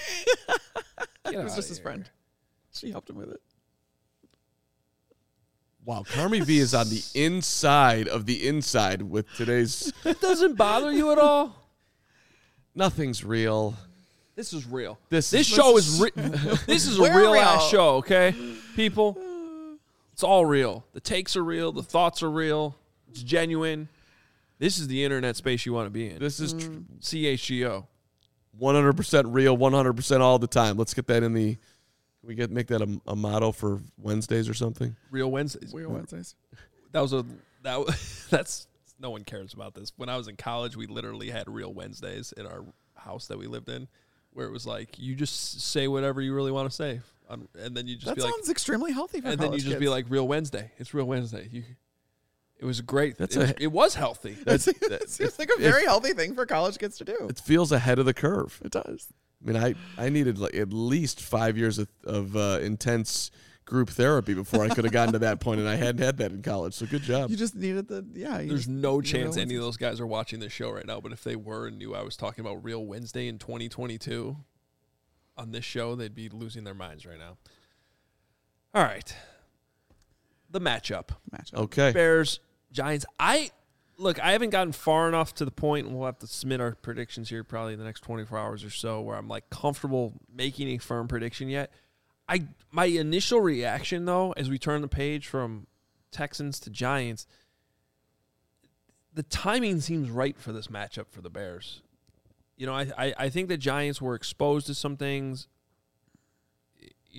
It was outta just his here. friend. She helped him with it. Wow, Carmi V is on the inside of the inside with today's. It doesn't bother you at all. Nothing's real. This is real. This This is- show is re- this is a We're real, real. ass show, okay? People, it's all real. The takes are real, the thoughts are real. It's genuine. This is the internet space you want to be in. This is tr- C H G O. one hundred percent real, one hundred percent all the time. Let's get that in the. Can we get make that a, a motto for Wednesdays or something? Real Wednesdays. Weird Wednesdays. That was a that wa- that's no one cares about this. When I was in college, we literally had Real Wednesdays in our house that we lived in, where it was like you just say whatever you really want to say, um, and then you just That be like, sounds extremely healthy for and then you college just kids. be like, Real Wednesday. It's Real Wednesday. You, it was great. That's it, was, a- it was healthy. That seems, that- that seems like a very healthy thing for college kids to do. It feels ahead of the curve. It does. I mean, I, I needed like at least five years of, of uh, intense group therapy before I could have gotten to that point, and I hadn't had that in college. So good job. You just needed the yeah. You There's just, no Real chance any Wednesdays. of those guys are watching this show right now, but if they were and knew I was talking about Real Wednesday in twenty twenty-two on this show, they'd be losing their minds right now. All right. The matchup. matchup. Okay. Bears, Giants. I look, I haven't gotten far enough to the point, and we'll have to submit our predictions here probably in the next twenty-four hours or so, where I'm like comfortable making a firm prediction yet. I my initial reaction though, as we turn the page from Texans to Giants, the timing seems right for this matchup for the Bears. You know, I I, I think the Giants were exposed to some things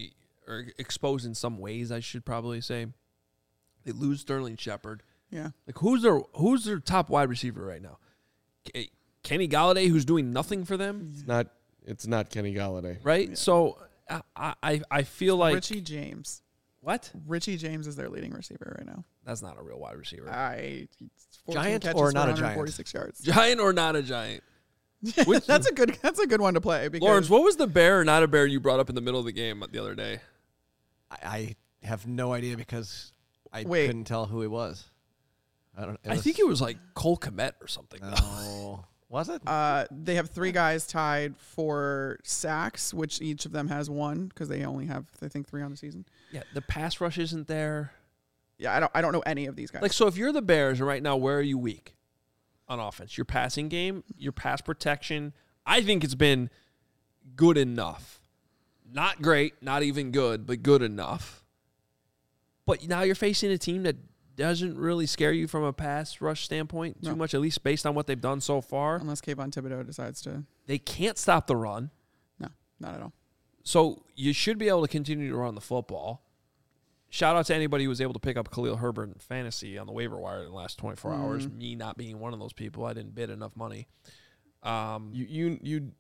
or exposed in some ways, I should probably say. They lose Sterling Shepard. Yeah. Like, who's their who's their top wide receiver right now? K- Kenny Galladay, who's doing nothing for them, It's not. It's not Kenny Galladay. right? Yeah. So I, I I feel like Richie James. what? Richie James is their leading receiver right now. That's not a real wide receiver. I Giant catches or for not a one giant? forty-six yards. Giant or not a giant? Which- that's a good. That's a good one to play. Because Lawrence, what was the bear or not a bear you brought up in the middle of the game the other day? I, I have no idea because I Wait. couldn't tell who he was. I don't. I think it was like Cole Kmet or something. No. Was it? Uh, they have three guys tied for sacks, which each of them has one because they only have, I think, three on the season. Yeah, the pass rush isn't there. Yeah, I don't. I don't know any of these guys. Like, so if you're the Bears, and right now, where are you weak on offense? Your passing game, your pass protection. I think it's been good enough. Not great, not even good, but good enough. But now you're facing a team that doesn't really scare you from a pass rush standpoint too No. much, at least based on what they've done so far. Unless Kayvon Thibodeau decides to. They can't stop the run. No, not at all. So you should be able to continue to run the football. Shout out to anybody who was able to pick up Khalil Herbert in fantasy on the waiver wire in the last twenty-four Mhm. hours. Me not being one of those people. I didn't bid enough money. Um, You you you.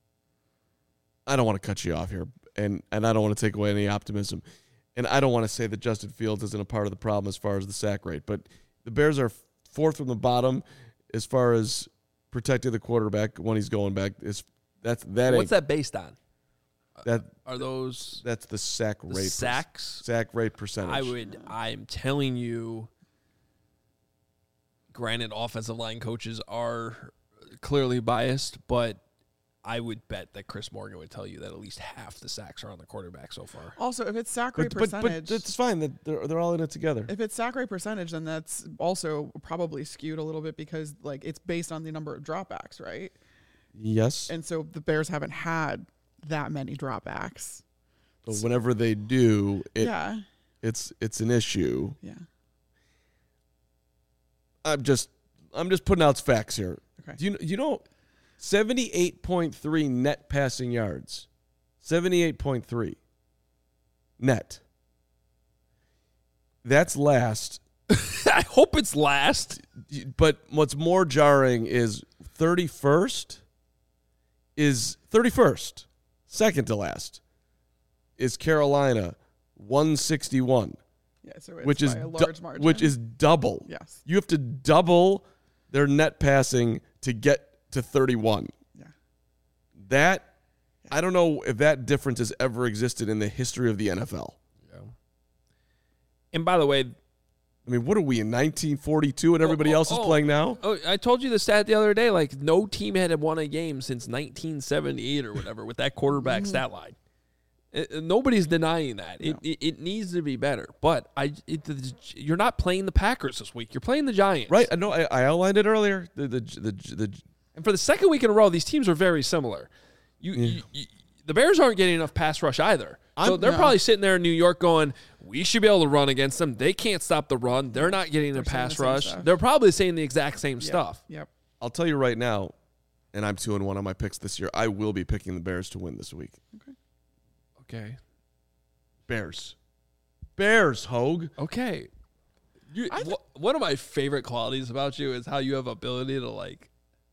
I don't want to cut you off here, and and I don't want to take away any optimism, and I don't want to say that Justin Fields isn't a part of the problem as far as the sack rate, but the Bears are fourth from the bottom as far as protecting the quarterback when he's going back. Is that's that what's ain't that based on? that Are those that's the sack the rate per- sacks? sack rate percentage. I would. I'm telling you. Granted, offensive line coaches are clearly biased, but I would bet that Chris Morgan would tell you that at least half the sacks are on the quarterback so far. Also, if it's sack rate but, but, but percentage, that's fine. That they're they're all in it together. if it's sack rate percentage, then that's also probably skewed a little bit because like it's based on the number of dropbacks, right? Yes, And so the Bears haven't had that many dropbacks. but whenever they do, it yeah, it's it's an issue. yeah. I'm just I'm just putting out facts here. Okay. Do you you know seventy-eight point three net passing yards. seventy-eight point three net. That's last. I hope it's last. But what's more jarring is thirty-first is thirty-first. Second to last is Carolina one sixty-one. Yeah, so it's Which is by a du- large margin. which is double. yes, You have to double their net passing to get to thirty-one. yeah. That I don't know if that difference has ever existed in the history of the N F L. And by the way, I mean, what are we in nineteen forty-two and everybody Oh, oh, else is oh. playing now? oh, I told you the stat the other day. Like, no team had won a game since nineteen seventy-eight or whatever with that quarterback stat line. It- it- nobody's denying that. It, No. it it needs to be better. But I, it, the, you're not playing the Packers this week. You're playing the Giants, Right? I know. I, I outlined it earlier. The the the, the And for the second week in a row, these teams are very similar. You, you, you the Bears aren't getting enough pass rush either. So I'm- they're no. probably sitting there in New York going, we should be able to run against them. They can't stop the run. They're not getting They're a saying pass the same rush. stuff. They're probably saying the exact same Yep, stuff. Yep. I'll tell you right now, and I'm two and one on my picks this year. I will be picking the Bears to win this week. Okay. Bears, Bears, Hogue. Okay. You, I th- wh- one of my favorite qualities about you is how you have ability to like.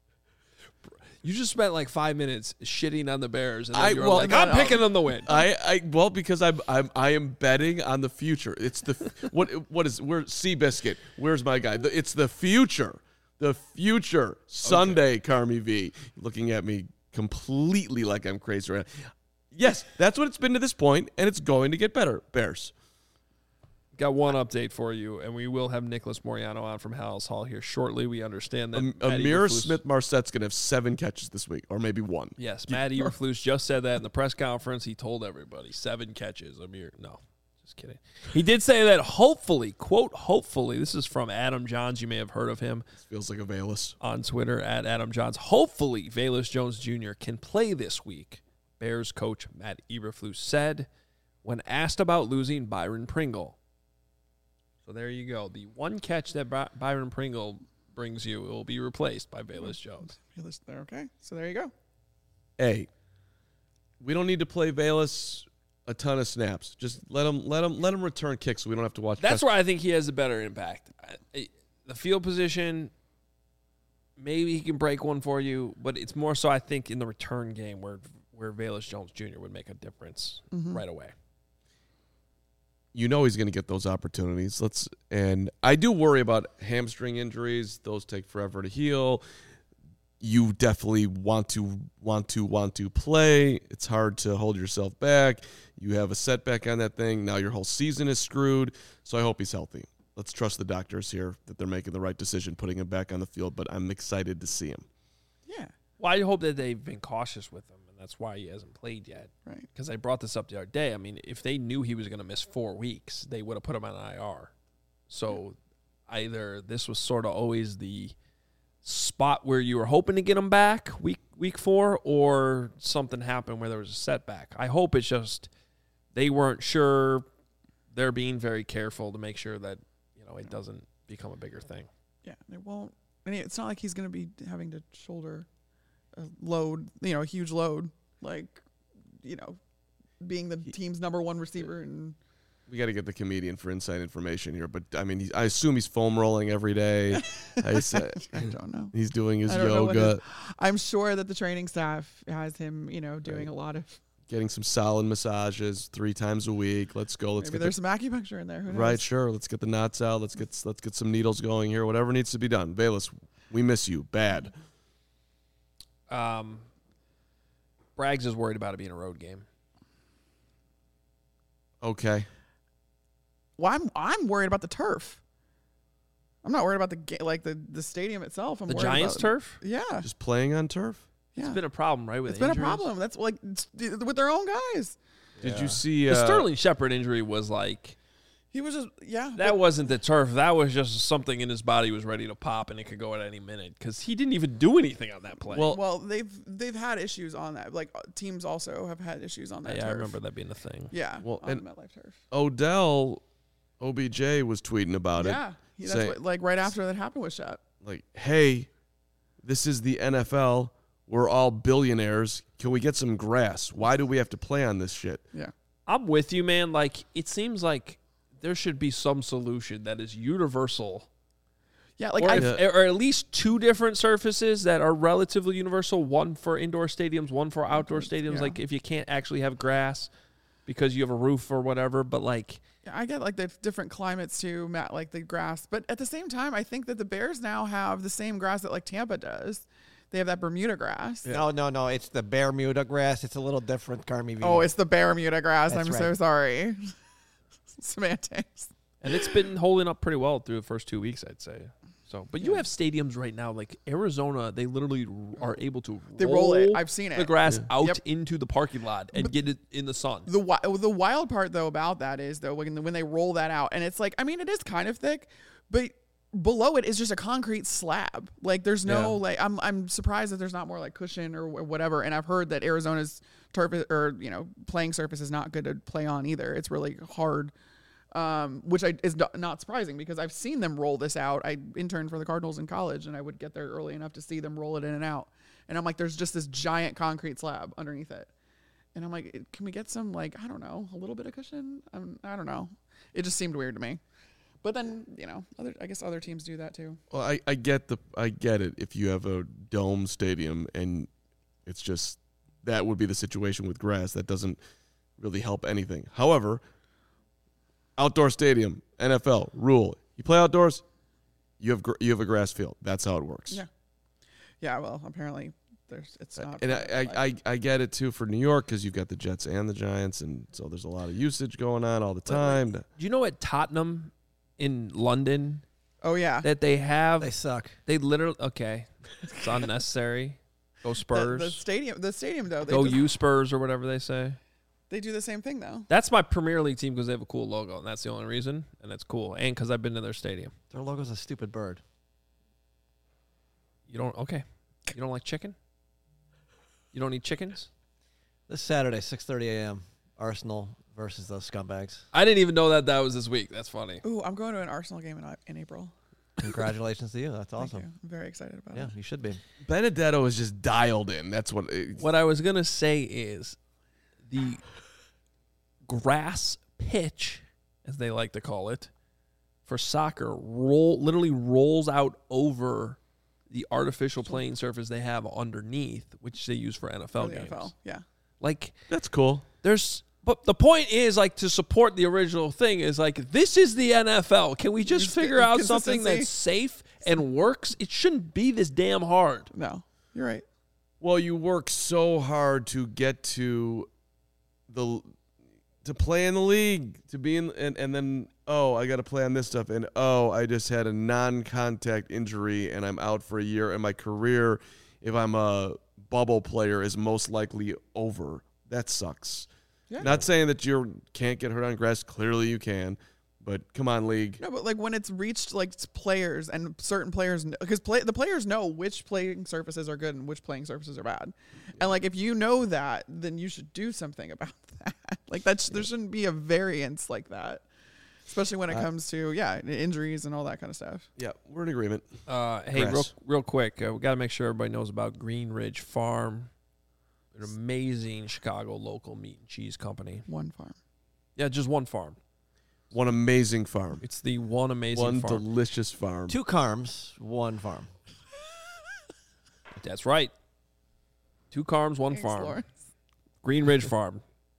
You just spent like five minutes shitting on the Bears, and then I- you were well, like, no, "I'm no. picking them to win." I, I well because I'm I'm I am betting on the future. It's the what what is we're Seabiscuit. Where's my guy? The, it's the future. The future Sunday. Carmi V looking at me completely like I'm crazy right now. Yes, that's what it's been to this point, and it's going to get better. Bears. Got one update for you, and we will have Nicholas Moriano on from Hallis Hall here shortly. We understand that Am- Matt Amir Eberflus- Smith Marsette's going to have seven catches this week, or maybe one. Yes, Matt Eberflus just said that in the press conference. He told everybody seven catches. Amir, no, just kidding. He did say that hopefully, quote, hopefully, this is from Adam Johns. You may have heard of him This feels like a Valus. on Twitter at Adam Johns. Hopefully, Velus Jones Junior can play this week. Bears coach Matt Eberflus said when asked about losing Byron Pringle. So there you go. The one catch that By- Byron Pringle brings you will be replaced by Velus Jones. Fearless there. Okay. So there you go. A. We don't need to play Valus a ton of snaps. Just let him let him let him return kicks so we don't have to watch. That's Preston. where I think he has a better impact. I- The field position, maybe he can break one for you, but it's more so I think in the return game where where Velus Jones Junior would make a difference Mm-hmm. right away. You know he's going to get those opportunities. Let's and I do worry about hamstring injuries. Those take forever to heal. You definitely want to want to want to play. It's hard to hold yourself back. You have a setback on that thing. Now your whole season is screwed. So I hope he's healthy. Let's trust the doctors here that they're making the right decision putting him back on the field, but I'm excited to see him. Yeah. Well, I hope that they've been cautious with him, and that's why he hasn't played yet. Right. Because I brought this up the other day. I mean, if they knew he was going to miss four weeks, they would have put him on I R. So either this was sort of always the spot where you were hoping to get him back week week four, or something happened where there was a setback. I hope it's just they weren't sure. They're being very careful to make sure that, you know, it doesn't become a bigger thing. Yeah, it won't. And it's not like he's going to be having to shoulder a load, you know, a huge load, like, you know, being the team's number one receiver. And We got to get the comedian for inside information here, but I mean, he's, I assume he's foam rolling every day. I, said, I don't know. He's doing his I don't know what yoga, his- I'm sure that the training staff has him, you know, doing Right. a lot of. getting some solid massages three times a week. Let's go. Let's Maybe get there's the, some acupuncture in there. Who knows? right. Sure. Let's get the knots out. Let's get let's get some needles going here. Whatever needs to be done. Velus, we miss you bad. Um, Braggs is worried about it being a road game. Okay. Well, I'm I'm worried about the turf. I'm not worried about the ga- like the, the stadium itself. I'm The worried Giants about, turf? Yeah, Just playing on turf. yeah. It's been a problem, right? With It's been a injuries? problem. That's like it's, with their own guys. Did you see The uh, Sterling Shepard injury was like He was just yeah. that but- wasn't the turf. That was just something in his body was ready to pop, and it could go at any minute because he didn't even do anything on that play. Well, well, they've they've had issues on that. Like uh, teams also have had issues on that. yeah, turf. I remember that being the thing. Yeah, Well, on and- the MetLife turf. Odell, O B J was tweeting about it. Yeah, he, that's say- what, like right after that happened with Shep. Like, hey, this is the N F L. We're all billionaires. Can we get some grass? Why do we have to play on this shit? Yeah, I'm with you, man. Like, it seems like there should be some solution that is universal, yeah. Like or, I, if, or at least two different surfaces that are relatively universal. One for indoor stadiums, one for outdoor stadiums. Yeah. Like, if you can't actually have grass because you have a roof or whatever, but like, Yeah, I get like the different climates too, Matt, like the grass. But at the same time, I think that the Bears now have the same grass that like Tampa does. They have that Bermuda grass. No, no, no. It's the Bermuda grass. It's a little different, Carmi. Oh, it's the Bermuda grass. That's I'm so right. sorry. Semantics. and it's been holding up pretty well through the first two weeks, I'd say. So, but you Yeah. have stadiums right now, like Arizona. They literally are able to They roll it. I've seen the it. grass out Yep. into the parking lot and get it in the sun. The wi- the wild part though about that is though when when they roll that out and it's like I mean it is kind of thick, but below it is just a concrete slab. Like there's no Yeah. like I'm I'm surprised that there's not more like cushion or wh- whatever. And I've heard that Arizona's turf is- or you know playing surface is not good to play on either. It's really hard. Um, which I, is not, not surprising because I've seen them roll this out. I interned for the Cardinals in college, and I would get there early enough to see them roll it in and out. And I'm like, there's just this giant concrete slab underneath it. And I'm like, can we get some, like, I don't know, a little bit of cushion? Um, I don't know. It just seemed weird to me. But then, you know, other I guess other teams do that too. Well, I, I get the I get it. If you have a dome stadium and it's just that would be the situation with grass. That doesn't really help anything. However, outdoor stadium, N F L rule: you play outdoors, you have gr- you have a grass field. That's how it works. Yeah. Yeah, well, apparently there's it's not. And I, I, I, I get it too for New York because you've got the Jets and the Giants, and so there's a lot of usage going on all the time. Do you know at Tottenham in London oh yeah. that they have They suck. they literally okay, it's unnecessary. Go The, Spurs. the stadium the stadium though, they Go do, you Spurs or whatever they say. they do the same thing though. That's my Premier League team because they have a cool logo, and that's the only reason. And it's cool, and because I've been to their stadium. Their logo's a stupid bird. You don't okay? You don't like chicken? You don't eat chickens? This Saturday, six thirty a.m., Arsenal versus those scumbags. I didn't even know that that was this week. That's funny. Ooh, I'm going to an Arsenal game in, in April. Congratulations to you. That's Thank awesome. you. I'm very excited about Yeah, it. you should be. Benedetto is just dialed in. That's what. It, What I was gonna say is the grass pitch, as they like to call it, for soccer roll literally rolls out over the artificial playing surface they have underneath, which they use for N F L For the games. N F L, yeah. Like, That's cool. there's, but the point is, like, to support the original thing is like, this is the N F L. Can we just Just figure out something consistency. that's safe and works? It shouldn't be this damn hard. No, you're right. Well, you work so hard to get to the to play in the league, to be in, and, and then oh, I got to play on this stuff, and oh, I just had a non-contact injury, and I'm out for a year, and my career, if I'm a bubble player, is most likely over. That sucks. Yeah. Not saying that you can't get hurt on grass. Clearly, you can, but come on, league. No, but like when it's reached like s- players and certain players, because play, the players know which playing surfaces are good and which playing surfaces are bad, and like if you know that, then you should do something about that. Like that's there shouldn't be a variance like that, especially when it I- comes to yeah injuries and all that kind of stuff. Yeah, we're in agreement. Uh, hey, real, Grass. real quick, uh, we got to make sure everybody knows about Green Ridge Farm, an amazing Chicago local meat and cheese company. One farm. Yeah, just one farm. One amazing farm. It's the one amazing One farm. delicious farm. Two Carms, one farm. That's right. Two Carms, one Thanks, farm. Lawrence. Green Ridge Farm.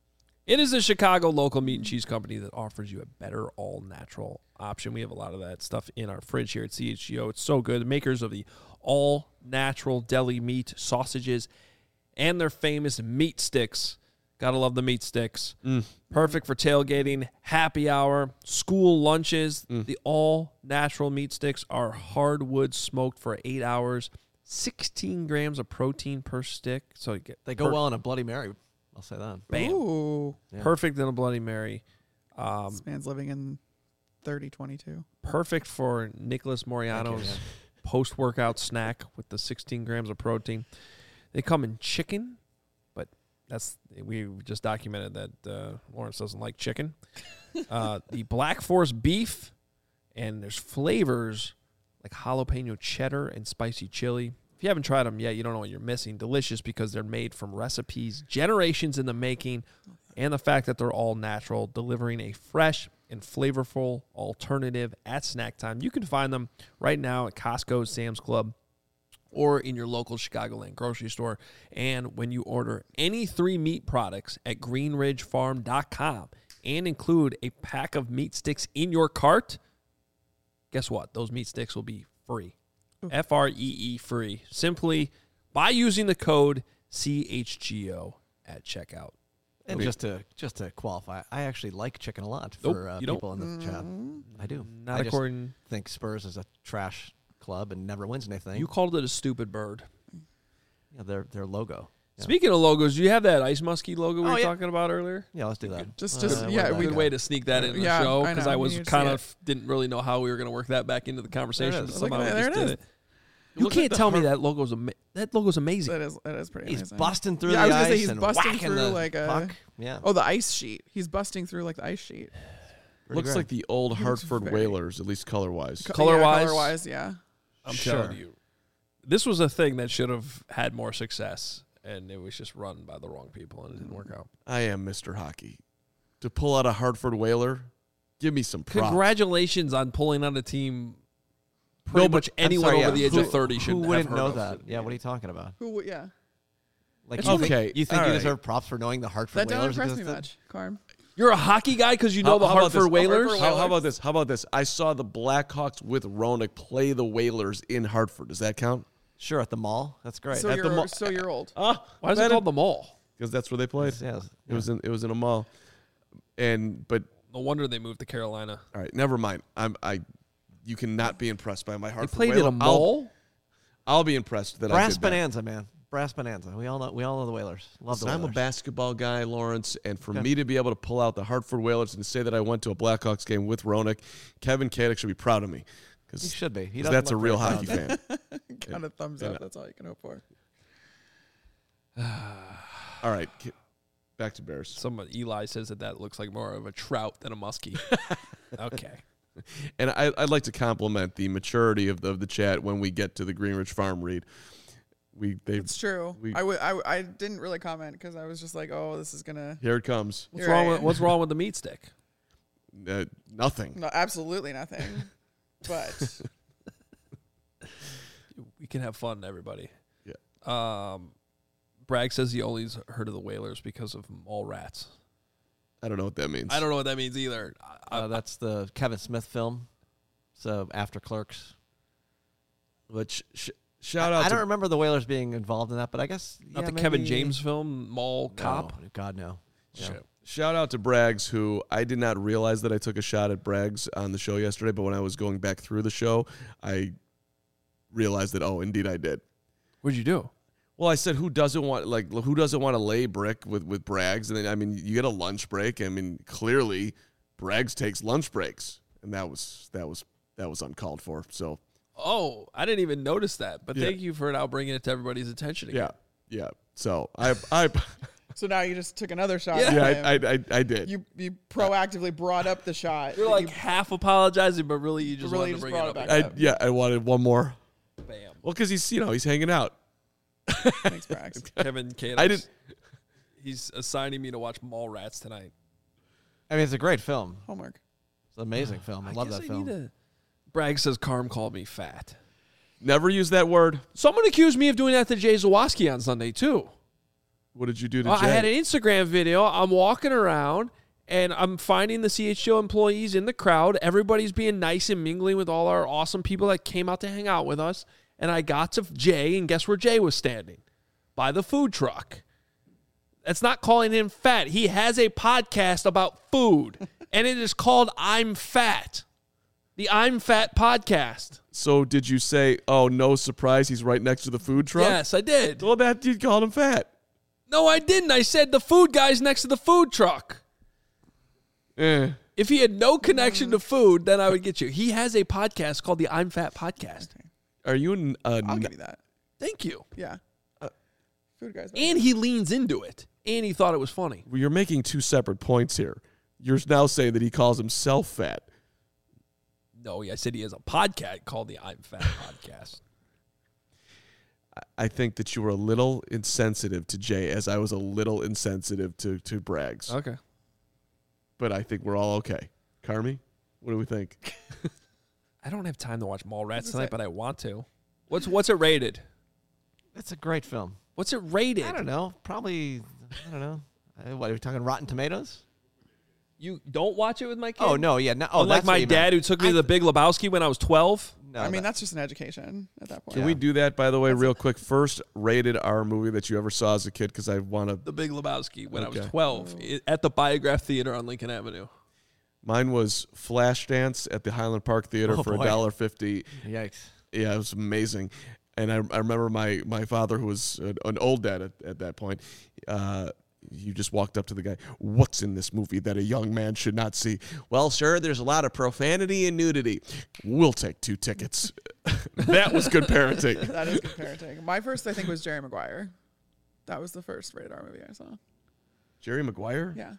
It is a Chicago local meat and cheese company that offers you a better all-natural option. We have a lot of that stuff in our fridge here at C H G O. It's so good. The makers of the all-natural deli meat, sausages, and their famous meat sticks. Gotta love the meat sticks. Mm. Perfect for tailgating, happy hour, school lunches. Mm. The all-natural meat sticks are hardwood smoked for eight hours. sixteen grams of protein per stick. So you get They go per- well in a Bloody Mary. I'll say that. Bam. Ooh, Yeah. Perfect in a Bloody Mary. Um, this man's living in thirty twenty-two. perfect for Nicholas Thank you, Moriano's yeah. post-workout snack with the sixteen grams of protein. They come in chicken, but that's we just documented that uh, Lawrence doesn't like chicken. Uh, the Black Forest beef, and there's flavors like jalapeno cheddar and spicy chili. If you haven't tried them yet, you don't know what you're missing. Delicious because they're made from recipes generations in the making, and the fact that they're all natural, delivering a fresh and flavorful alternative at snack time. You can find them right now at Costco, Sam's Club, or in your local Chicagoland grocery store. And when you order any three meat products at green ridge farm dot com and include a pack of meat sticks in your cart, guess what? Those meat sticks will be free. F R E E free. Simply by using the code C H G O at checkout. And Okay. just to just to qualify, I actually like chicken a lot Nope, for uh, you don't. people in the chat. I do. Not I just according. think Spurs is a trash club and never wins anything. You called it a stupid bird. yeah, their their logo. Yeah. Speaking of logos, do you have that Ice Muskie logo we Oh, were yeah. talking about earlier? Yeah, let's do that. Just- Uh, just- where'd yeah, that we- Good go? way to sneak that in the Yeah, show I because know. I We was need to see kind it. of didn't really know how we were going to work that back into the conversation. There it is. So somehow Look, we there just it did is. it. It You looks like can't the tell me Har- that logo's ama- that logo's amazing. That is that is pretty. He's amazing. busting through Yeah, I the was gonna say ice he's and busting whacking through the like a- puck. Yeah. Oh, the ice sheet. He's busting through like the ice sheet. Pretty Looks great. like the old He looks Hartford very- Whalers, at least color wise. Co- Color-wise? yeah, color wise, yeah. I'm Sure. telling you, this was a thing that should have had more success, and it was just run by the wrong people, and it didn't work out. I am Mister Hockey. To pull out a Hartford Whaler, give me some props. Congratulations on pulling out a team. Pretty No, but- much I'm anyone sorry, over yeah. the age Who- of thirty should Who have wouldn't heard know of that? it. Yeah, what are you talking about? Who? would- Yeah. Like, It's you okay. think, you think all you right. deserve props for knowing the Hartford That doesn't Whalers impress me existed? much, Carm. You're a hockey guy because you know How- the how about Hartford this? Whalers. Hartford How, how about this? How about this? I saw the Blackhawks with Roenick play the Whalers in Hartford. Does that count? Sure, at the mall. That's great. So At the you're mo- so you're old. Ah, Why is it called the Mall? Because that's where they played. yeah, It was in it was in a mall, and but No wonder they moved to Carolina. all right, never mind. I'm I. You cannot be impressed by my They Hartford played Whaler. at a mall. I'll, I'll be impressed that I Brass did that. Bonanza, man. Brass Bonanza. We all know. We all know the Whalers. Love the Listen, I'm a Whalers. basketball guy, Lawrence, and for Okay. me to be able to pull out the Hartford Whalers and to say that I went to a Blackhawks game with Roenick, Kevin Kadek should be proud of me He because should be. He doesn't that's a look real very hockey proud. fan. Kind of thumbs Yeah. up. That's all you can hope for. All right, ki- back to Bears. Some Eli says that that looks like more of a trout than a muskie. Okay. And I, I'd like to compliment the maturity of the, of the chat when we get to the Greenridge Farm read. We they It's true. we- I would. I, I didn't really comment because I was just like, oh, this is gonna. here it comes. What's You're wrong right. with What's wrong with the meat stick? Uh, nothing. No, absolutely nothing. But We can have fun, everybody. Yeah. Um, Bragg says he only's heard of the Whalers because of mall rats. I don't know what that means. I don't know what that means either. I, Uh, that's the Kevin Smith film. So after Clerks. Which sh- shout out I to don't remember the Whalers being involved in that, but I guess not yeah, the Kevin maybe- James film, Mall No, Cop. God no. Yeah. Shit. Shout out to Braggs, who I did not realize that I took a shot at Braggs on the show yesterday, but when I was going back through the show, I realized that, oh, indeed I did. What'd you do? Well, I said, who doesn't want, like, who doesn't want to lay brick with, with Braggs? And then, I mean, you get a lunch break. I mean, clearly, Braggs takes lunch breaks, and that was, that was, that was uncalled for. So, Oh, I didn't even notice that. But Yeah. thank you for now bringing it to everybody's attention again. yeah, yeah. So, I, I, so now you just took another shot. Yeah. at yeah, him. I, I, I, I did. You you proactively brought up the shot. You're that like you- half apologizing, but really you just Really wanted just to bring brought it it up. back again. up. I, yeah, I wanted one more. Bam. Well, because he's, you know, he's hanging out. Thanks, Brax. Kevin Canis. I didn't- He's assigning me to watch Mallrats tonight. I mean, it's a great film. Homework. It's an amazing film. I, love guess that I film. need to- Bragg says Carm called me fat. Never use that word. Someone accused me of doing that to Jay Zawoski on Sunday, too. What did you do to Well, Jay? I had an Instagram video. I'm walking around, and I'm finding the C H G O employees in the crowd. Everybody's being nice and mingling with all our awesome people that came out to hang out with us. And I got to Jay, and guess where Jay was standing? By the food truck. That's not calling him fat. He has a podcast about food, and it is called I'm Fat. The I'm Fat podcast. So did you say, oh, no surprise, he's right next to the food truck? Yes, I did. Well, that dude called him fat. No, I didn't. I said the food guy's next to the food truck. Eh. If he had no connection to food, then I would get you. He has a podcast called the I'm Fat Podcast. Are you an, uh, I'll n- give you that. Thank you. Yeah. Food guys. And he leans into it. And he thought it was funny. well, you're making two separate points here. You're now saying that he calls himself fat. No, I said he has a podcast called the I'm Fat Podcast. I think that you were a little insensitive to Jay, as I was a little insensitive to, to Braggs. Okay. But I think we're all okay. Carmi, what do we think? I don't have time to watch Mallrats is tonight, it? but I want to. What's what's it rated? It's a great film. What's it rated? I don't know. Probably, I don't know. Uh, What, are we talking Rotten Tomatoes? You don't watch it with my kid? Oh, no, yeah. No, oh, Unlike that's what my you dad meant. who took me I to the Big Lebowski when I was twelve. No, I mean, that- that's just an education at that point. Can we do that, by the way, real quick? First rated R movie that you ever saw as a kid, because I want to. The Big Lebowski when I was Okay. twelve i- at the Biograph Theater on Lincoln Avenue. Mine was Flashdance at the Highland Park Theater Oh, for a boy. dollar fifty. Yikes. Yeah, it was amazing. And I, I remember my, my father, who was an, an old dad at, at that point, uh, he just walked up to the guy, what's in this movie that a young man should not see? Well, sir, there's a lot of profanity and nudity. We'll take two tickets. That was good parenting. That is good parenting. My first, I think, was Jerry Maguire. That was the first rated R movie I saw. Jerry Maguire? Yeah.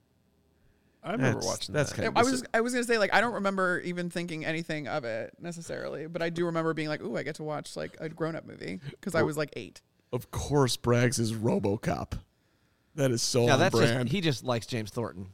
I remember That's- watching that's that. kind I was I was gonna say, like, I don't remember even thinking anything of it necessarily, but I do remember being like, "Ooh, I get to watch like a grown up movie," because I was like eight. Of course, Braggs is RoboCop. That is so Yeah, on that's brand. just, he just likes James Thornton.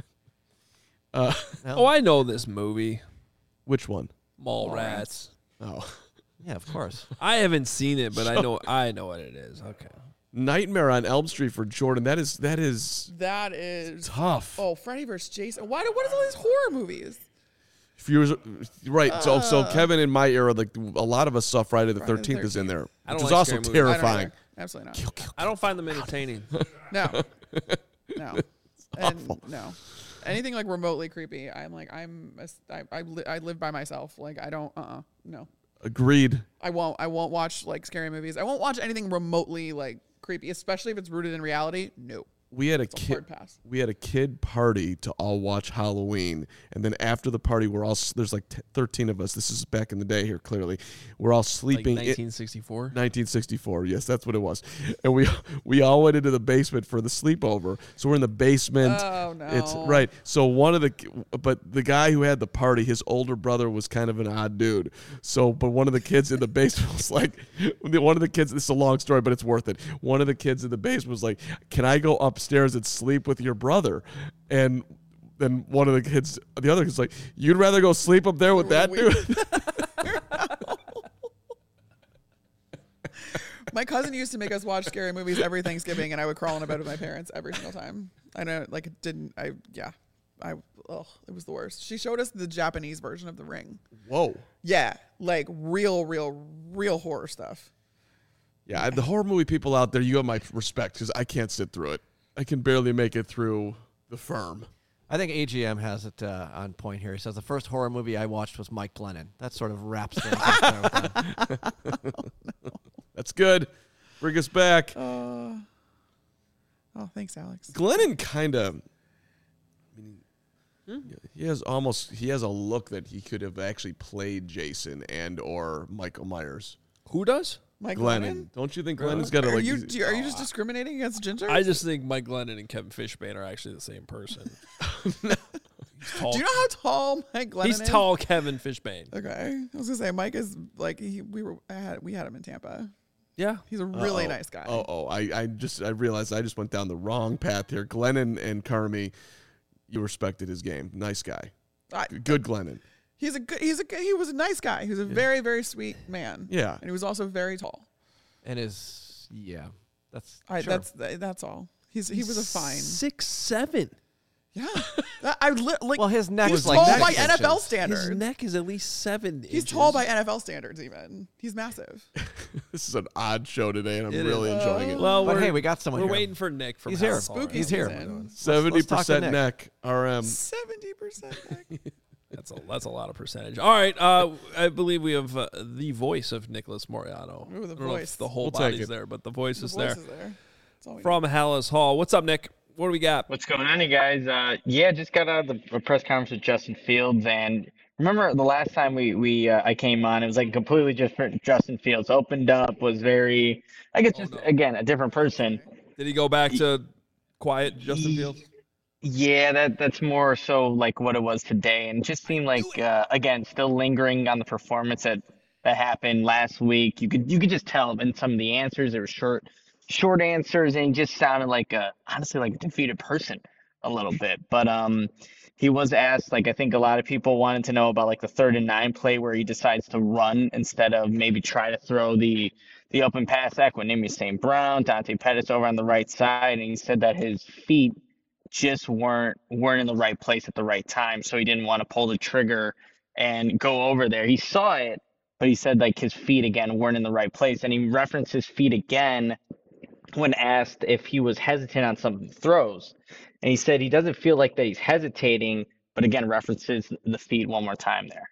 uh, No? Oh, I know this movie, which one? Mallrats. Oh. Yeah, of course. I haven't seen it, but I know I know what it is. Okay. Nightmare on Elm Street for Jordan. That is that is That is tough. oh, Freddy versus Jason. Why? do- What is all these horror movies? If you was, right, so so Uh. Kevin in my era, like a lot of us saw Friday the Friday the Thirteenth is in there, I which don't was like also scary movies. I don't terrifying. either. Absolutely not. I don't find them entertaining. No, no, and no. Anything like remotely creepy, I'm like, I'm, a, I, I, li- I live by myself. Like, I don't, uh, uh no. Agreed. I won't. I won't watch like scary movies. I won't watch anything remotely like creepy, especially if it's rooted in reality. No. we had a It's a kid. hard pass. We had a kid party to all watch Halloween, and then after the party, we're all s- there's like t- thirteen of us. This is back in the day here. Clearly, we're all Like sleeping. in- nineteen sixty-four. nineteen sixty-four. Yes, that's what it was. And we we all went into the basement for the sleepover. So we're in the basement. Oh no! It's right. So one of the but the guy who had the party, his older brother was kind of an odd dude. So but one of the kids in the basement was like one of the kids, this is a long story, but it's worth it. One of the kids in the basement was like, "Can I go upstairs and sleep with your brother?" And then one of the kids, the other kid's like, "You'd rather go sleep up there with that Weird. dude?" My cousin used to make us watch scary movies every Thanksgiving, and I would crawl in a bed with my parents every single time. I know, like, it didn't. I yeah, I ugh, it was the worst. She showed us the Japanese version of The Ring. Whoa. Yeah, like real, real, real horror stuff. Yeah, the horror movie people out there, you have my respect because I can't sit through it. I can barely make it through The Firm. I think A G M has it uh, on point here. He says the first horror movie I watched was Mike Glennon. That sort of wraps things up there with him. That's good. Bring us back. Uh, oh, thanks, Alex. Glennon kind of, I mean, he has almost, he has a look that he could have actually played Jason and or Michael Myers. Who does? Mike Glennon. Glennon. Don't you think Glennon's got a Are like? you do you- are you just discriminating against Ginger? I just think Mike Glennon and Kevin Fishbane are actually the same person. He's tall. do you know how tall Mike Glennon He's is? tall Kevin Fishbane. Okay, I was gonna say Mike is like he, we were I had we had him in Tampa. Yeah. He's a really Uh-oh. nice guy. Oh, oh, I, I just, I realized I just went down the wrong path here. Glennon and Carmi, you respected his game. Nice guy. I, Good Glennon. he's a good. He's a good- he was a nice guy. He was a very very sweet man. Yeah. and he was also very tall. And his, yeah, that's I, sure. That's that's all. He's he was a fine. Six seven. Yeah, That- I li- like. Well, his neck he's was like tall neck by inches. N F L His standards. neck is at least seven. He's inches. tall by N F L standards. Even he's massive. This is an odd show today, and I'm It really is. enjoying it. Well, But we're, hey, we got someone We're here. waiting for Nick from He's here. House Call Spooky He's here. season. Seventy let's talk to percent Nick. neck. R M. Seventy percent. That's a that's a lot of percentage. All right, uh, I believe we have uh, the voice of Nicholas Moriano. Ooh, the I don't know if voice. the whole We'll take body's it. there, but the voice The is voice there. is there. That's all we From Hallis Hall. What's up, Nick? What do we got? What's going on, you guys? Uh, yeah, just got out of the press conference with Justin Fields, and remember the last time we we uh, I came on, it was like completely different. Justin Fields opened up, was very, I guess, just no. again a different person. Did he go back to quiet Justin Fields? Yeah, that that's more so like what it was today, and it just seemed like uh, again still lingering on the performance that that happened last week. You could you could just tell in some of the answers there were short short answers, and he just sounded like a honestly like a defeated person a little bit. But um, he was asked, like I think a lot of people wanted to know about like the third and nine play where he decides to run instead of maybe try to throw the the open pass. Equanimous Saint Brown, Dante Pettis over on the right side, and he said that his feet just weren't weren't in the right place at the right time, so he didn't want to pull the trigger and go over there. He saw it, but he said like his feet again weren't in the right place, and he referenced his feet again when asked if he was hesitant on some throws, and he said he doesn't feel like that he's hesitating, but again references the feet one more time there.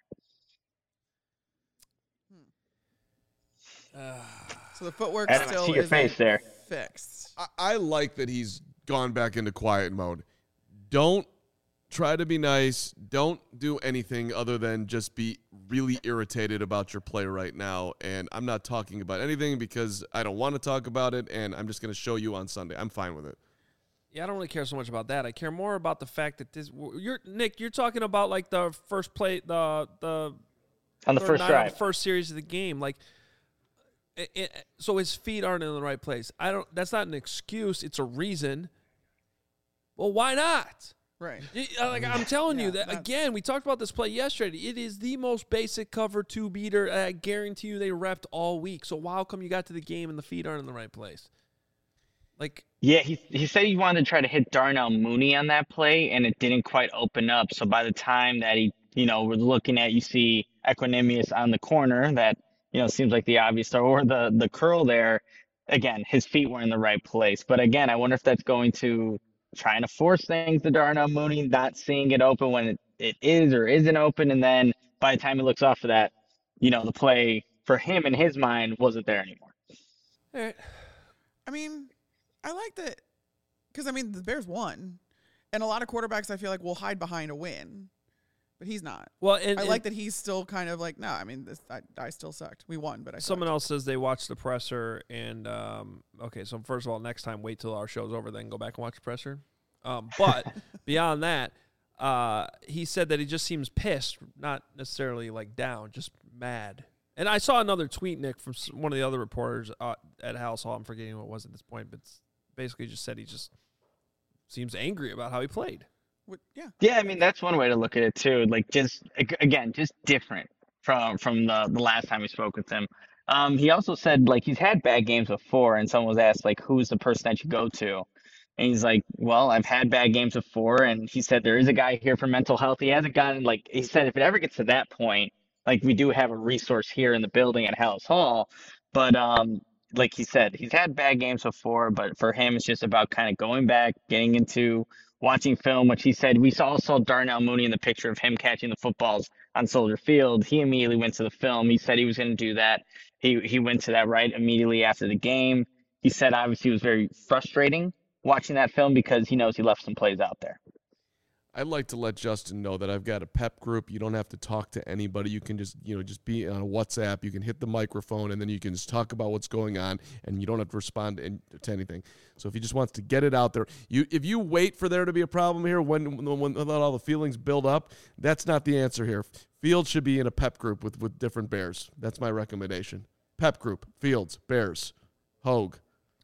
So the footwork Adam, I still see your isn't face there. fixed. I, I like that he's gone back into quiet mode. Don't try to be nice. Don't do anything other than just be really irritated about your play right now. And I'm not talking about anything because I don't want to talk about it, and I'm just going to show you on Sunday. I'm fine with it. Yeah, I don't really care so much about that. I care more about the fact that this. You're Nick. You're talking about like the first play, the the On the third first nine of drive. the first series of the game. Like, it, it, so his feet aren't in the right place. I don't. That's not an excuse. It's a reason. Well, why not? Right. You- uh, Like I'm telling Yeah, you that that's- again. We talked about this play yesterday. It is the most basic cover two beater. I guarantee you they repped all week. So how come you got to the game and the feet aren't in the right place? Like, Yeah, he he said he wanted to try to hit Darnell Mooney on that play, and it didn't quite open up. So by the time that he, you know, we're looking at, you see Equanimous on the corner that, you know, seems like the obvious throw, or the the curl there. Again, his feet were in the right place. But again, I wonder if that's going to trying to force things to Darnell Mooney, not seeing it open when it, it is or isn't open, and then by the time he looks off of that, you know, the play for him in his mind wasn't there anymore. all right. I mean, I like that Because, I mean, the Bears won. And a lot of quarterbacks, I feel like, will hide behind a win. But he's not. Well, and, I and like that he's still kind of like, no, I mean, this, I, I still sucked. We won, but I someone sucked. else says they watched the presser. And, um, okay, so first of all, next time, wait till our show's over, then go back and watch the presser. Um, but beyond that, uh, he said that he just seems pissed, not necessarily like down, just mad. And I saw another tweet, Nick, from one of the other reporters uh, at House Hall. I'm forgetting what it was at this point, but basically just said he just seems angry about how he played. What, yeah. Yeah, I mean that's one way to look at it too. Like just ag- again, just different from from the the last time we spoke with him. Um, he also said like he's had bad games before, and someone was asked like who's the person that you go to, and he's like, well, I've had bad games before, and he said there is a guy here for mental health. He hasn't gotten like he said if it ever gets to that point, like we do have a resource here in the building at House Hall, but um. Like he said, he's had bad games before, but for him, it's just about kind of going back, getting into watching film, which he said we saw, saw Darnell Mooney in the picture of him catching the footballs on Soldier Field. He immediately went to the film. He said he was going to do that. He he went to that right immediately after the game. He said obviously it was very frustrating watching that film because he knows he left some plays out there. I'd like to let Justin know that I've got a pep group. You don't have to talk to anybody. You can just, you know, just be on a WhatsApp. You can hit the microphone, and then you can just talk about what's going on, and you don't have to respond to, to anything. So if he just wants to get it out there, you if you wait for there to be a problem here when, when, when all the feelings build up, that's not the answer here. Fields should be in a pep group with, with different Bears. That's my recommendation. Pep group, Fields, Bears, Hogue.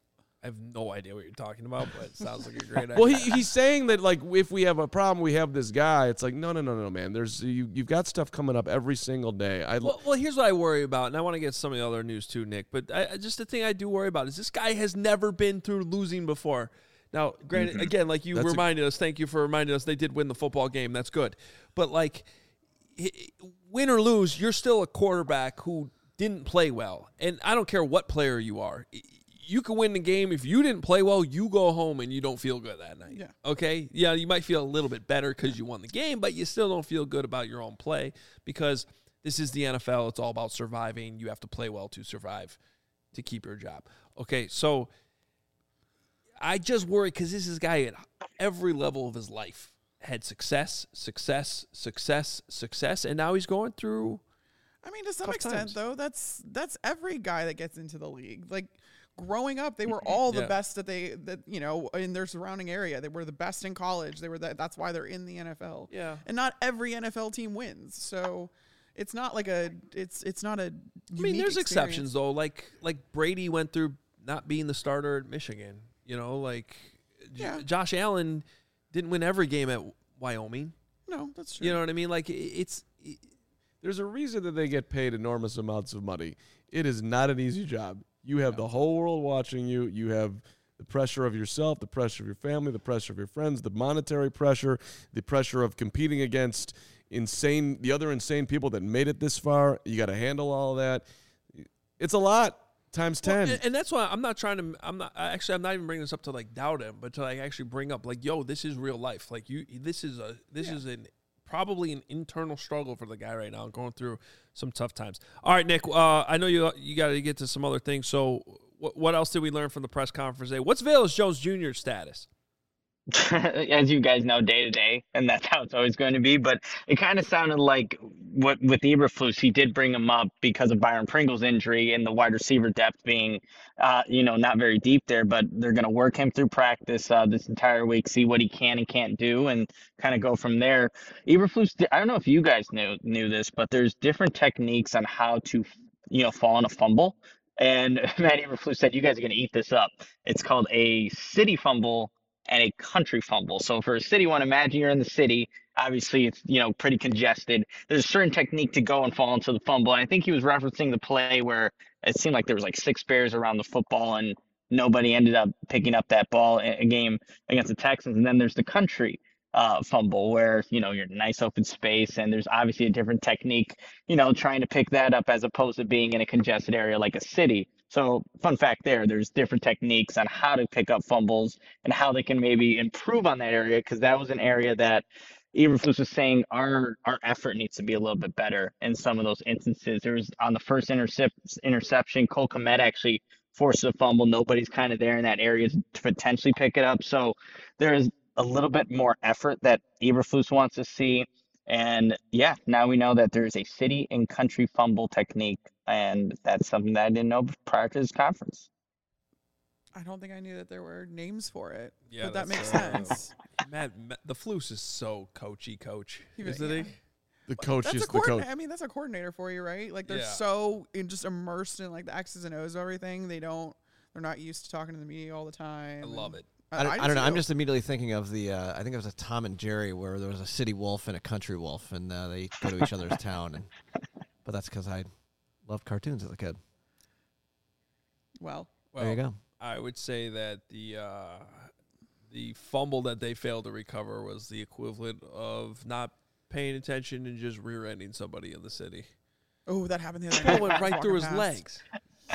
I have no idea what you're talking about, but it sounds like a great idea. Well, he, he's saying that, like, if we have a problem, we have this guy. It's like, no, no, no, no, man. There's you, you've got stuff coming up every single day. I Well, well, here's what I worry about, and I want to get some of the other news too, Nick. But I, I- just the thing I do worry about is this guy has never been through losing before. Now, granted, again, like you That's a- reminded us, thank you for reminding us, they did win the football game. That's good. But like, h- win or lose, you're still a quarterback who didn't play well, and I don't care what player you are. You can win the game. If you didn't play well, you go home and you don't feel good that night. Yeah. Okay? Yeah, you might feel a little bit better because you won the game, but you still don't feel good about your own play because this is the N F L. It's all about surviving. You have to play well to survive, to keep your job. Okay, so I just worry because this is a guy at every level of his life had success, success, success, success, and now he's going through I mean, to some Tough extent, times. though, that's that's every guy that gets into the league. Like growing up, they were all the Yeah. best that they that you know in their surrounding area. They were the best in college. They were the, that's why they're in the N F L. Yeah. And not every N F L team wins. So it's not like a it's it's not a. I mean, unique there's experience. exceptions though. Like like Brady went through not being the starter at Michigan. You know, like J- Yeah. Josh Allen didn't win every game at Wyoming. No, that's true. You know what I mean? Like it, it's it, There's a reason that they get paid enormous amounts of money. It is not an easy job. You have the whole world watching you. You have the pressure of yourself, the pressure of your family, the pressure of your friends, the monetary pressure, the pressure of competing against insane, the other insane people that made it this far. You got to handle all of that. It's a lot times ten. Well, and, and that's why I'm not trying to. I'm not actually. I'm not even bringing this up to like doubt him, but to like actually bring up like, yo, this is real life. Like you, this is a this Yeah. is an probably an internal struggle for the guy right now, going through some tough times. All right, Nick. Uh, I know you you got to get to some other things. So, what what else did we learn from the press conference today? What's Velus Jones Junior's status? As you guys know, day to day, and that's how it's always going to be. But it kind of sounded like what with Eberflus, he did bring him up because of Byron Pringle's injury and the wide receiver depth being, uh, you know, not very deep there. But they're going to work him through practice uh, this entire week, see what he can and can't do, and kind of go from there. Eberflus, I don't know if you guys knew knew this, but there's different techniques on how to, you know, fall on a fumble. And Matt Eberflus said, "You guys are going to eat this up." It's called a city fumble and a country fumble. So for a city one, imagine you're in the city. Obviously, it's, you know, pretty congested. There's a certain technique to go and fall into the fumble. And I think he was referencing the play where it seemed like there was like six Bears around the football and nobody ended up picking up that ball in a game against the Texans. And then there's the country uh, fumble where, you know, you're in a nice open space and there's obviously a different technique, you know, trying to pick that up as opposed to being in a congested area like a city. So fun fact there, there's different techniques on how to pick up fumbles and how they can maybe improve on that area, because that was an area that Eberflus was saying our our effort needs to be a little bit better in some of those instances. There was on the first intercep- interception, Cole Kmet actually forces a fumble. Nobody's kind of there in that area to potentially pick it up. So there is a little bit more effort that Eberflus wants to see. And yeah, now we know that there's a city and country fumble technique, and that's something that I didn't know prior to this conference. I don't think I knew that there were names for it. Yeah, but that that's, makes uh, sense. Matt, Matt, the Flus is so coachy, coach, He was- isn't yeah. he? The coach That's is a the coach. coordinator. I mean, that's a coordinator for you, right? Like they're Yeah. so in, just immersed in like the X's and O's of everything. They don't. They're not used to talking to the media all the time. I love it. I don't, I don't know. I'm do. just immediately thinking of the. Uh, I think it was a Tom and Jerry where there was a city wolf and a country wolf, and uh, they go to each other's town. And but that's because I loved cartoons as a kid. Well, Well, there you go. I would say that the uh, the fumble that they failed to recover was the equivalent of not paying attention and just rear-ending somebody in the city. oh, that happened the other Ball night. went I was right through his walking past. legs.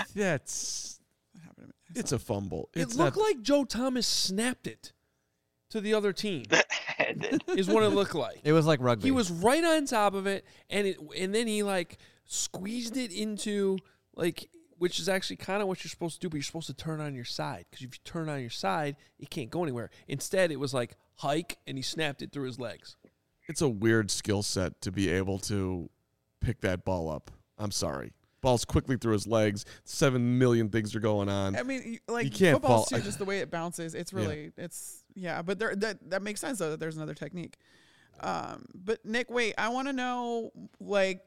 That's That happened to me. I it's saw a fumble. It It's looked not, like Joe Thomas snapped it to the other team. It did. Is what it looked like. It was like rugby. He was right on top of it, and it, and then he like squeezed it into like, which is actually kind of what you're supposed to do, but you're supposed to turn on your side because if you turn on your side, it can't go anywhere. Instead, it was like hike, and he snapped it through his legs. it's a weird skill set to be able to pick that ball up. I'm sorry. Ball's quickly through his legs. Seven million things are going on. I mean, you- like You can't football's fall- too, just the way it bounces. It's really, it's yeah. But there, that that makes sense though that there's another technique. Um, but Nick, wait, I want to know like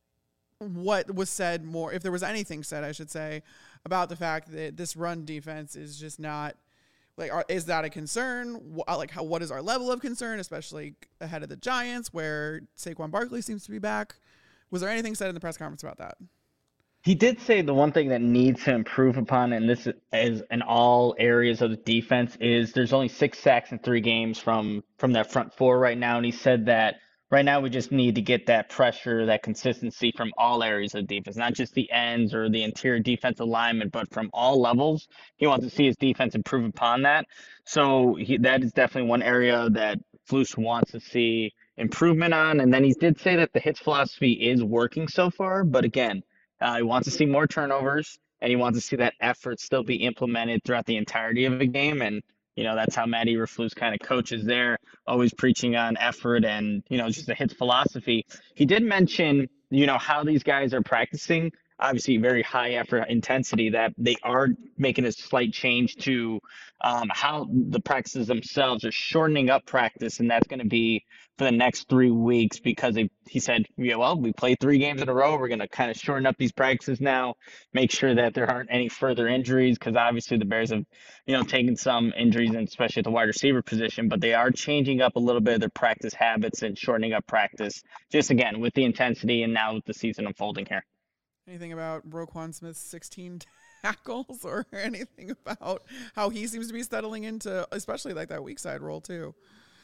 what was said more, if there was anything said, I should say, about the fact that this run defense is just not like, are, is that a concern? Wh- Like, how what is our level of concern, especially ahead of the Giants, where Saquon Barkley seems to be back? Was there anything said in the press conference about that? He did say the one thing that needs to improve upon, and this is in all areas of the defense, is there's only six sacks in three games from from that front four right now. And he said that right now we just need to get that pressure, that consistency from all areas of defense, not just the ends or the interior defensive linemen, but from all levels. He wants to see his defense improve upon that. So he, that is definitely one area that Flus wants to see improvement on. And then he did say that the hits philosophy is working so far, but again, Uh, he wants to see more turnovers, and he wants to see that effort still be implemented throughout the entirety of the game. And, you know, that's how Matt Eberflus kind of coaches there, always preaching on effort and, you know, just the hits philosophy. He did mention, you know, how these guys are practicing, obviously very high effort intensity, that they are making a slight change to um, how the practices themselves are shortening up practice. And that's going to be for the next three weeks because they, he said, yeah, well, we played three games in a row. We're going to kind of shorten up these practices now, make sure that there aren't any further injuries because obviously the Bears have, you know, taken some injuries, and especially at the wide receiver position, but they are changing up a little bit of their practice habits and shortening up practice just, again, with the intensity and now with the season unfolding here. Anything about Roquan Smith's sixteen tackles or anything about how he seems to be settling into, especially like that weak side role too?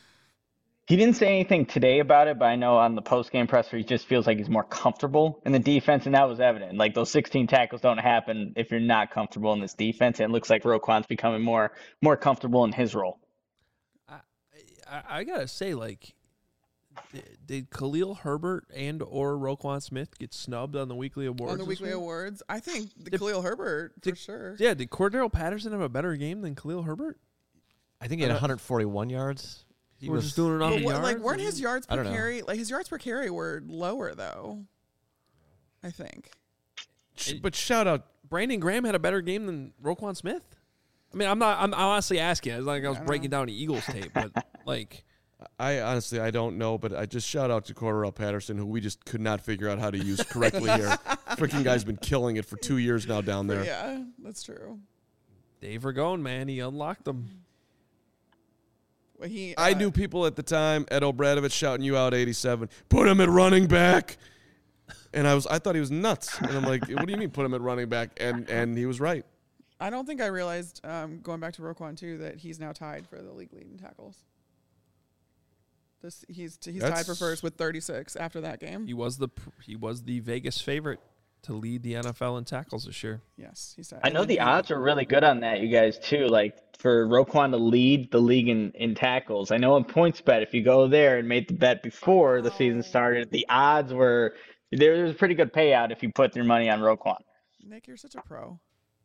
He didn't say anything today about it, but I know on the post-game presser, he just feels like he's more comfortable in the defense, and that was evident. Like, those sixteen tackles don't happen if you're not comfortable in this defense, and it looks like Roquan's becoming more more comfortable in his role. I, I, I gotta say, like, did, did Khalil Herbert and or Roquan Smith get snubbed on the weekly awards? On the this weekly week? awards, I think the Did- Khalil Herbert for did- sure. Yeah, did Cordero Patterson have a better game than Khalil Herbert? I think he had one hundred forty-one yards. He We're was just doing it on But the what- yards. like, weren't I his mean- yards I per don't know. carry? Like his yards per carry were lower though. I think. Sh- But shout out, Brandon Graham had a better game than Roquan Smith? I mean, I'm not. I'm honestly asking. It's like I was I don't breaking down the Eagles tape, but like, I honestly I don't know, but I just shout out to Cordell Patterson, who we just could not figure out how to use correctly here. Freaking guy's been killing it for two years now down there. Yeah, that's true. Dave Ragone, man, he unlocked them. Well, he. I uh, knew people at the time, Ed O'Bradovich shouting you out eighty-seven, put him at running back. And I was I thought he was nuts. And I'm like, what do you mean put him at running back? And and he was right. I don't think I realized um, going back to Roquan too that he's now tied for the league lead in tackles. This he's he's tied for That's- first with thirty-six after that game. He was the pr- he was the Vegas favorite to lead the N F L in tackles this year. Yes, he's tied. I know the odds are really good on that, you guys, too. Like, for Roquan to lead the league in, in tackles. I know in PointsBet, if you go there and made the bet before the season started, the odds were there was a pretty good payout if you put your money on Roquan. Nick, you're such a pro.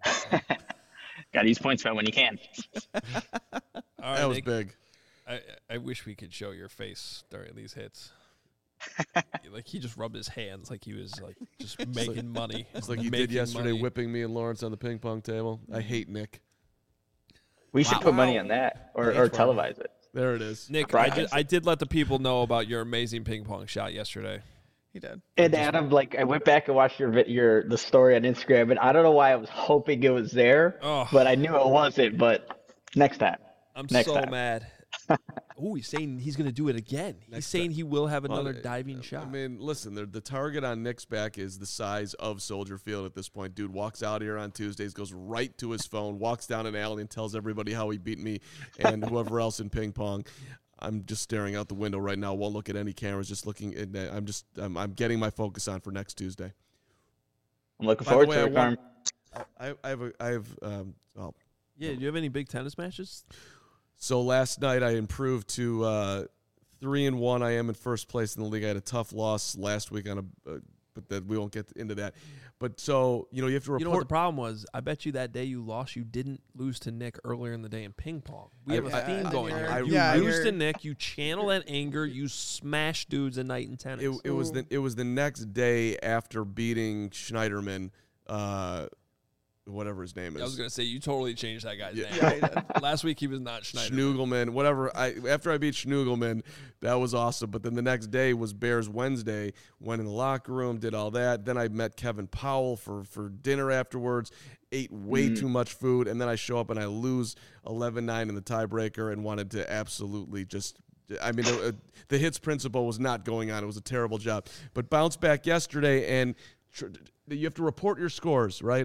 Got to use points bet when you can. All right, That was Nick, big. I, I wish we could show your face during these hits. Like he just rubbed his hands like he was like just making money. It's like he Making did yesterday, money. whipping me and Lawrence on the ping pong table. I hate Nick. We should Wow. put money on that or, or televise it. There it is. Nick, I Brian. did, I did let the people know about your amazing ping pong shot yesterday. He did. And Adam, like, I went back and watched your vid- your the story on Instagram, and I don't know why I was hoping it was there, Oh. but I knew it wasn't. But next time, I'm Next so time. mad. Oh, he's saying he's going to do it again. He's Next saying time. he will have another Well, diving I shot. mean, listen, the, the target on Nick's back is the size of Soldier Field at this point. Dude walks out here on Tuesdays, goes right to his phone, walks down an alley, and tells everybody how he beat me and whoever else in ping pong. I'm just staring out the window right now. Won't look at any cameras. Just looking. At, I'm just. I'm, I'm getting my focus on for next Tuesday. I'm looking By the forward way, to I it, Carm. want- I, I have. A, I have. Um, oh, Yeah, do you have any big tennis matches? So last night I improved to uh, three and one. I am in first place in the league. I had a tough loss last week on a, uh, but that we won't get into that. But so you know you have to report. You know what the problem was? I bet you that day you lost, you didn't lose to Nick earlier in the day in ping pong. We have I- a theme I- going I- here. I- You yeah, lose you're- to Nick, you channel that anger, you smash dudes at night in tennis. It, it was the it was the next day after beating Schneiderman, uh, whatever his name is. I was gonna say you totally changed that guy's Yeah. name. Yeah, he did. Last week he was not Schneider. Schnugelman, whatever. I after I beat Schnugelman, that was awesome. But then the next day was Bears Wednesday. Went in the locker room, did all that. Then I met Kevin Powell for for dinner afterwards. Ate way Mm. too much food, and then I show up and I lose eleven nine in the tiebreaker, and wanted to absolutely just. I mean, the, the hits principle was not going on. It was a terrible job. But bounced back yesterday, and tr- you have to report your scores, right?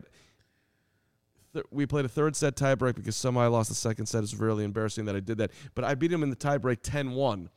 We played a third set tiebreak because somehow I lost the second set. It's really embarrassing that I did that. But I beat him in the tiebreak ten one.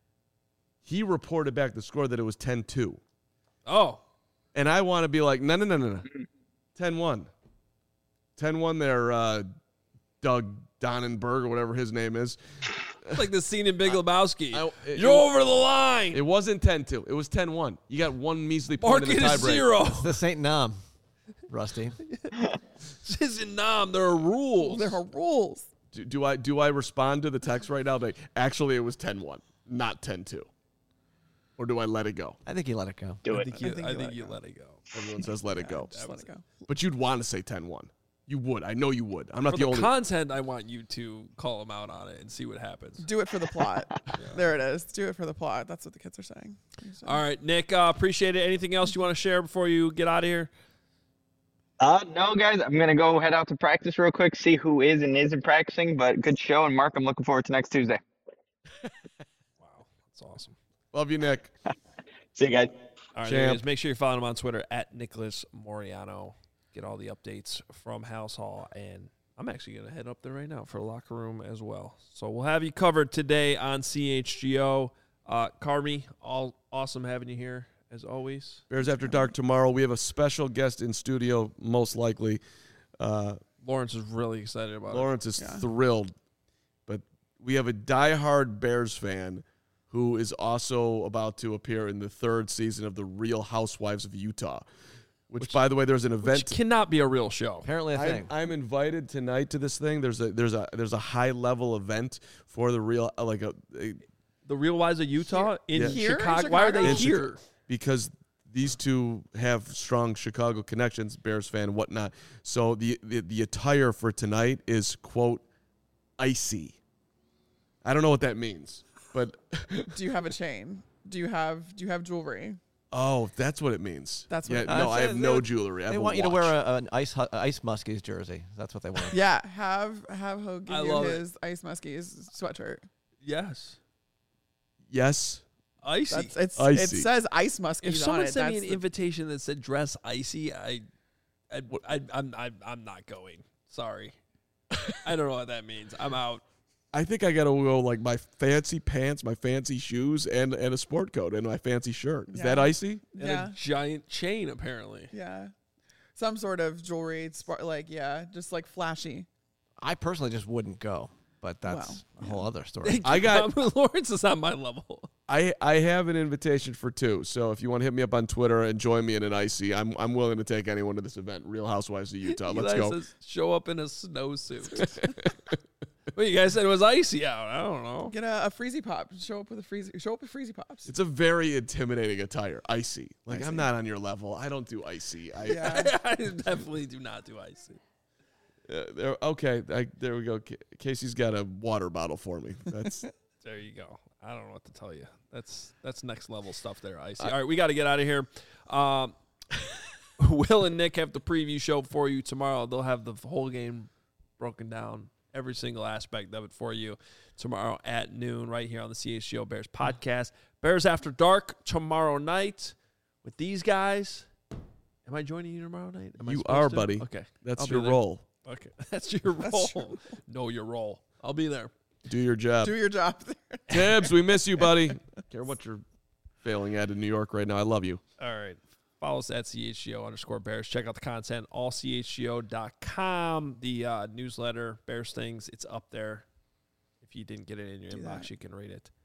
He reported back the score that it was ten two. Oh, And I want to be like, no, no, no, no, no. ten one. ten one there, uh, Doug Donnenberg or whatever his name is. it's like the scene in Big Lebowski. I- it- You're it- over the line. It wasn't ten two. It was ten one. You got one measly point Mark in it the as tiebreak. zero. The Saint Nam, Rusty. This isn't Nam. There are rules. There are rules. Do, do I do I respond to the text right now? Like, actually, it was ten one, not ten two. Or do I let it go? I think he let it go. Do I it. think you, I think I you think let you it go. let it go. Everyone says let it go. Just let it go. But you'd want to say ten one. You would. I know you would. I'm not For the the only. content, I want you to call him out on it and see what happens. Do it for the plot. There it is. Do it for the plot. That's what the kids are saying. So- All right, Nick, uh, appreciate it. Anything else you want to share before you get out of here? Uh, no, guys, I'm gonna go head out to practice real quick, see who is and isn't practicing. But good show, and Mark, I'm looking forward to next Tuesday. Wow, that's awesome. Love you, Nick. See you guys. All right, Champ. there it is. Make sure you follow him on Twitter at Nicholas Moriano. Get all the updates from House Hall, and I'm actually going to head up there right now for the locker room as well. So we'll have you covered today on C H G O. Uh, Carmi, all awesome having you here as always. Bears After Dark tomorrow. We have a special guest in studio, most likely. Uh, Lawrence is really excited about Lawrence is Yeah. thrilled. But we have a diehard Bears fan who is also about to appear in the third season of The Real Housewives of Utah. Which, by the way, there's an it, event. which cannot be a real show. Apparently a I'm, thing. I'm invited tonight to this thing. There's a there's a there's a high level event for the real uh, like a, a The Real Wives of Utah in Yeah. Here in Chicago. Why are they Chicago? In here? because these two have strong Chicago connections, Bears fan, whatnot. So the, the the attire for tonight is quote icy. I don't know what that means, but Do you have a chain? Do you have Do you have jewelry? oh, that's what it means. That's what yeah. it No, means. I have They- no they- jewelry. I They have want a you to wear watch. a, an ice hu- ice muskies jersey. That's what they want. Yeah, have have Ho give I you love it. his Ice Muskies sweatshirt. Yes. Yes. Icy. That's it's Icy. it says Ice Muskies if on someone it. sent me That's an the- invitation that said dress icy, I, I, I I'm, I'm, I'm not going. Sorry, I don't know what that means. I'm out. I think I gotta go like my fancy pants, my fancy shoes, and and a sport coat and my fancy shirt. Is Yeah. that icy? And yeah, a giant chain, apparently. yeah, some sort of jewelry, spar- like yeah, just like flashy. I personally just wouldn't go, but that's Well, a whole other story. I got- Lawrence is on my level. I I have an invitation for two. So if you want to hit me up on Twitter and join me in an icy, I'm I'm willing to take anyone to this event. Real Housewives of Utah. Let's Eli go. says, show up in a snowsuit. Well, you guys said it was icy out. I don't know. Get a, a freezy pop. Show up with a freezy. Show up with freezy pops. It's a very intimidating attire. Icy. Like Icy. I'm not on your level. I don't do icy. I, Yeah. I definitely do not do icy. Uh, there, okay, I, there we go. Ca- Casey's got a water bottle for me. That's There you go. I don't know what to tell you. That's that's next level stuff there, Icy. All right, we got to get out of here. Um, Will and Nick have the preview show for you tomorrow. They'll have the whole game broken down, every single aspect of it for you tomorrow at noon right here on the C H G O Bears podcast. Bears After Dark tomorrow night with these guys. Am I joining you tomorrow night? Am I you supposed are, to? buddy. Okay. That's I'll be your there. role. Okay. That's your role. Know your role. I'll be there. Do your job. Do your job. Tibbs, we miss you, buddy. Care what you're failing at in New York right now. I love you. All right. Follow us at C H G O underscore Bears. Check out the content, all C H G O dot com. The uh, newsletter, Bears Things, it's up there. If you didn't get it in your Do inbox, that. you can read it.